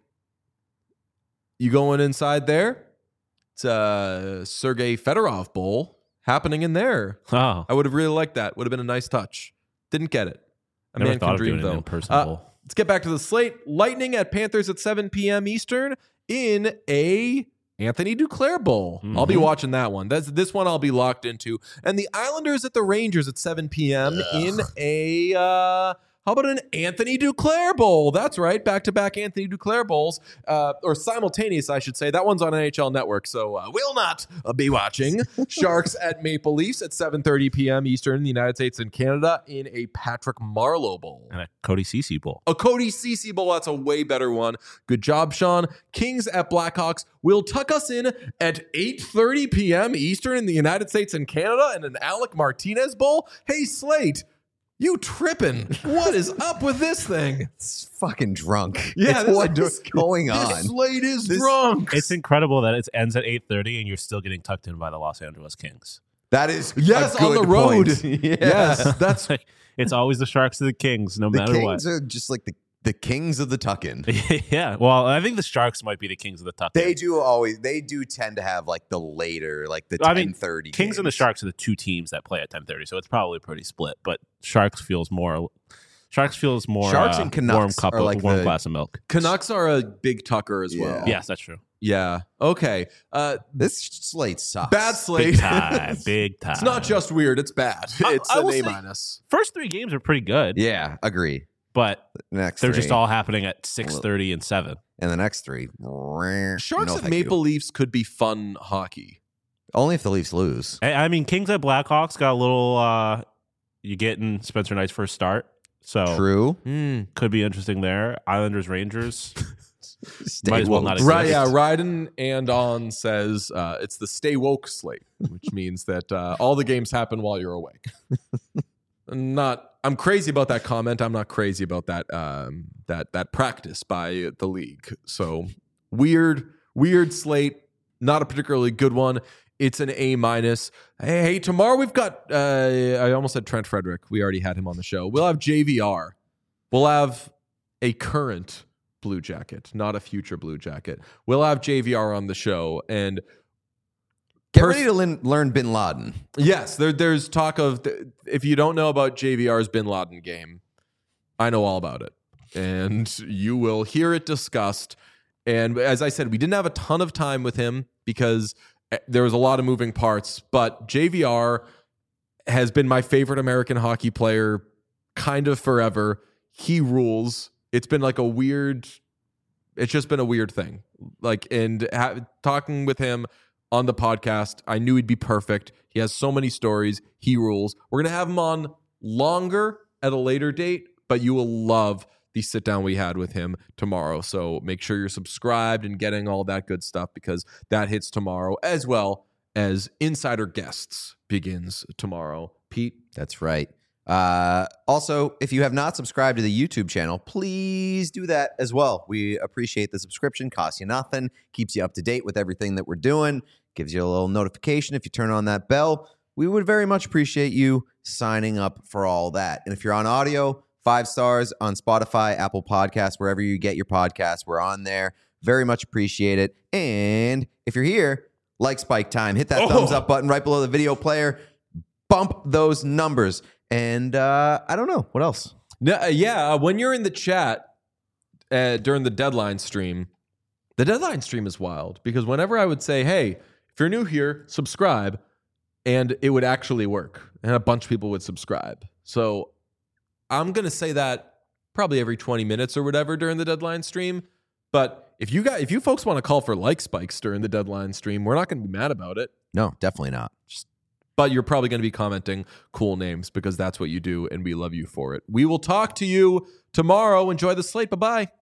"You going inside there? It's a Sergei Fedorov Bowl happening in there." Oh, I would have really liked that. Would have been a nice touch. Didn't get it. A never man thought can of dream, doing an though. in-person Uh, bowl. Let's get back to the slate. Lightning at Panthers at seven p.m. Eastern in a Anthony Duclair Bowl. I'll be Mhm. watching that one. That's this one I'll be locked into. And the Islanders at the Rangers at seven p.m. in a uh, how about an Anthony Duclair Bowl? That's right, back-to-back Anthony Duclair Bowls, uh, or simultaneous, I should say. That one's on N H L Network, so uh, will not uh, be watching. Sharks at Maple Leafs at seven thirty p.m. Eastern in the United States and Canada in a Patrick Marleau Bowl. And a Cody Ceci Bowl. A Cody Ceci Bowl, that's a way better one. Good job, Sean. Kings at Blackhawks will tuck us in at eight thirty p.m. Eastern in the United States and Canada in an Alec Martinez Bowl. Hey, Slate, you tripping. What is up with this thing? It's fucking drunk. Yeah, It's this- what this- is going This on? slate is This- drunk. It's incredible that it ends at eight thirty and you're still getting tucked in by the Los Angeles Kings. That is Yes, a on the good road. point. Yeah. Yes, that's Like, it's always the Sharks or the Kings, no The matter Kings what. are just like the, the kings of the tuck-in. Yeah, well, I think the Sharks might be the Kings of the tuck. They do always. They do tend to have like the later, like the I mean, ten thirty. Kings and the Sharks are the two teams that play at ten thirty, so it's probably pretty split. But Sharks feels more. Sharks feels more. Sharks uh, and Canucks warm cup are of like warm the- glass of milk. Canucks are a big tucker as well. Yeah. Yes, that's true. Yeah. Okay. Uh, This slate sucks. bad Big slate. time. Big time. It's not just weird. It's bad. I- It's I an will A say- minus. First three games are pretty good, Yeah, agree. but Next they're three. just all happening at six thirty and seven. And the next three. Sharks No, and thank Maple you. Leafs could be fun hockey. Only if the Leafs lose. I, I mean, Kings at Blackhawks got a little. Uh, you getting Spencer Knight's first start, so True. could be interesting there. Islanders Rangers. Stay Might as well woke. not exist. Right, yeah. Ryden and On says uh, it's the stay woke slate, which means that uh, all the games happen while you're awake. Not, I'm crazy about that comment. I'm not crazy about that um, that that practice by the league. So weird, weird slate. Not a particularly good one. It's an A minus. Hey, hey, tomorrow we've got. Uh, I almost said Trent Frederick. We already had him on the show. We'll have J V R. We'll have a current Blue Jacket, not a future Blue Jacket. We'll have J V R on the show, and Get pers- ready to lin- learn Bin Laden. yes, there, there's talk of if you don't know about J V R's Bin Laden game, I know all about it, and you will hear it discussed. And as I said, we didn't have a ton of time with him because there was a lot of moving parts, but J V R has been my favorite American hockey player kind of forever. He rules. It's been like a weird, it's just been a weird thing. Like, and ha- talking with him on the podcast, I knew he'd be perfect. He has so many stories. He rules. We're going to have him on longer at a later date, but you will love the sit down we had with him tomorrow. So make sure you're subscribed and getting all that good stuff because that hits tomorrow, as well as Insider Guests begins tomorrow. Pete? That's right. Uh, also, if you have not subscribed to the YouTube channel, please do that as well. We appreciate the subscription. Costs you nothing. Keeps you up to date with everything that we're doing. Gives you a little notification if you turn on that bell. We would very much appreciate you signing up for all that. And if you're on audio, five stars on Spotify, Apple Podcasts, wherever you get your podcasts, we're on there. Very much appreciate it. And if you're here, like Spike Time, hit that Oh. thumbs up button right below the video player. Bump those numbers. And uh, I don't know. What else? No, uh, yeah, uh, when you're in the chat uh, during the deadline stream, the deadline stream is wild because whenever I would say, hey, if you're new here, subscribe, and it would actually work. And a bunch of people would subscribe. So I'm going to say that probably every twenty minutes or whatever during the deadline stream. But if you got, if you folks want to call for like spikes during the deadline stream, we're not going to be mad about it. No, definitely not. But you're probably going to be commenting cool names because that's what you do, and we love you for it. We will talk to you tomorrow. Enjoy the slate. Bye-bye.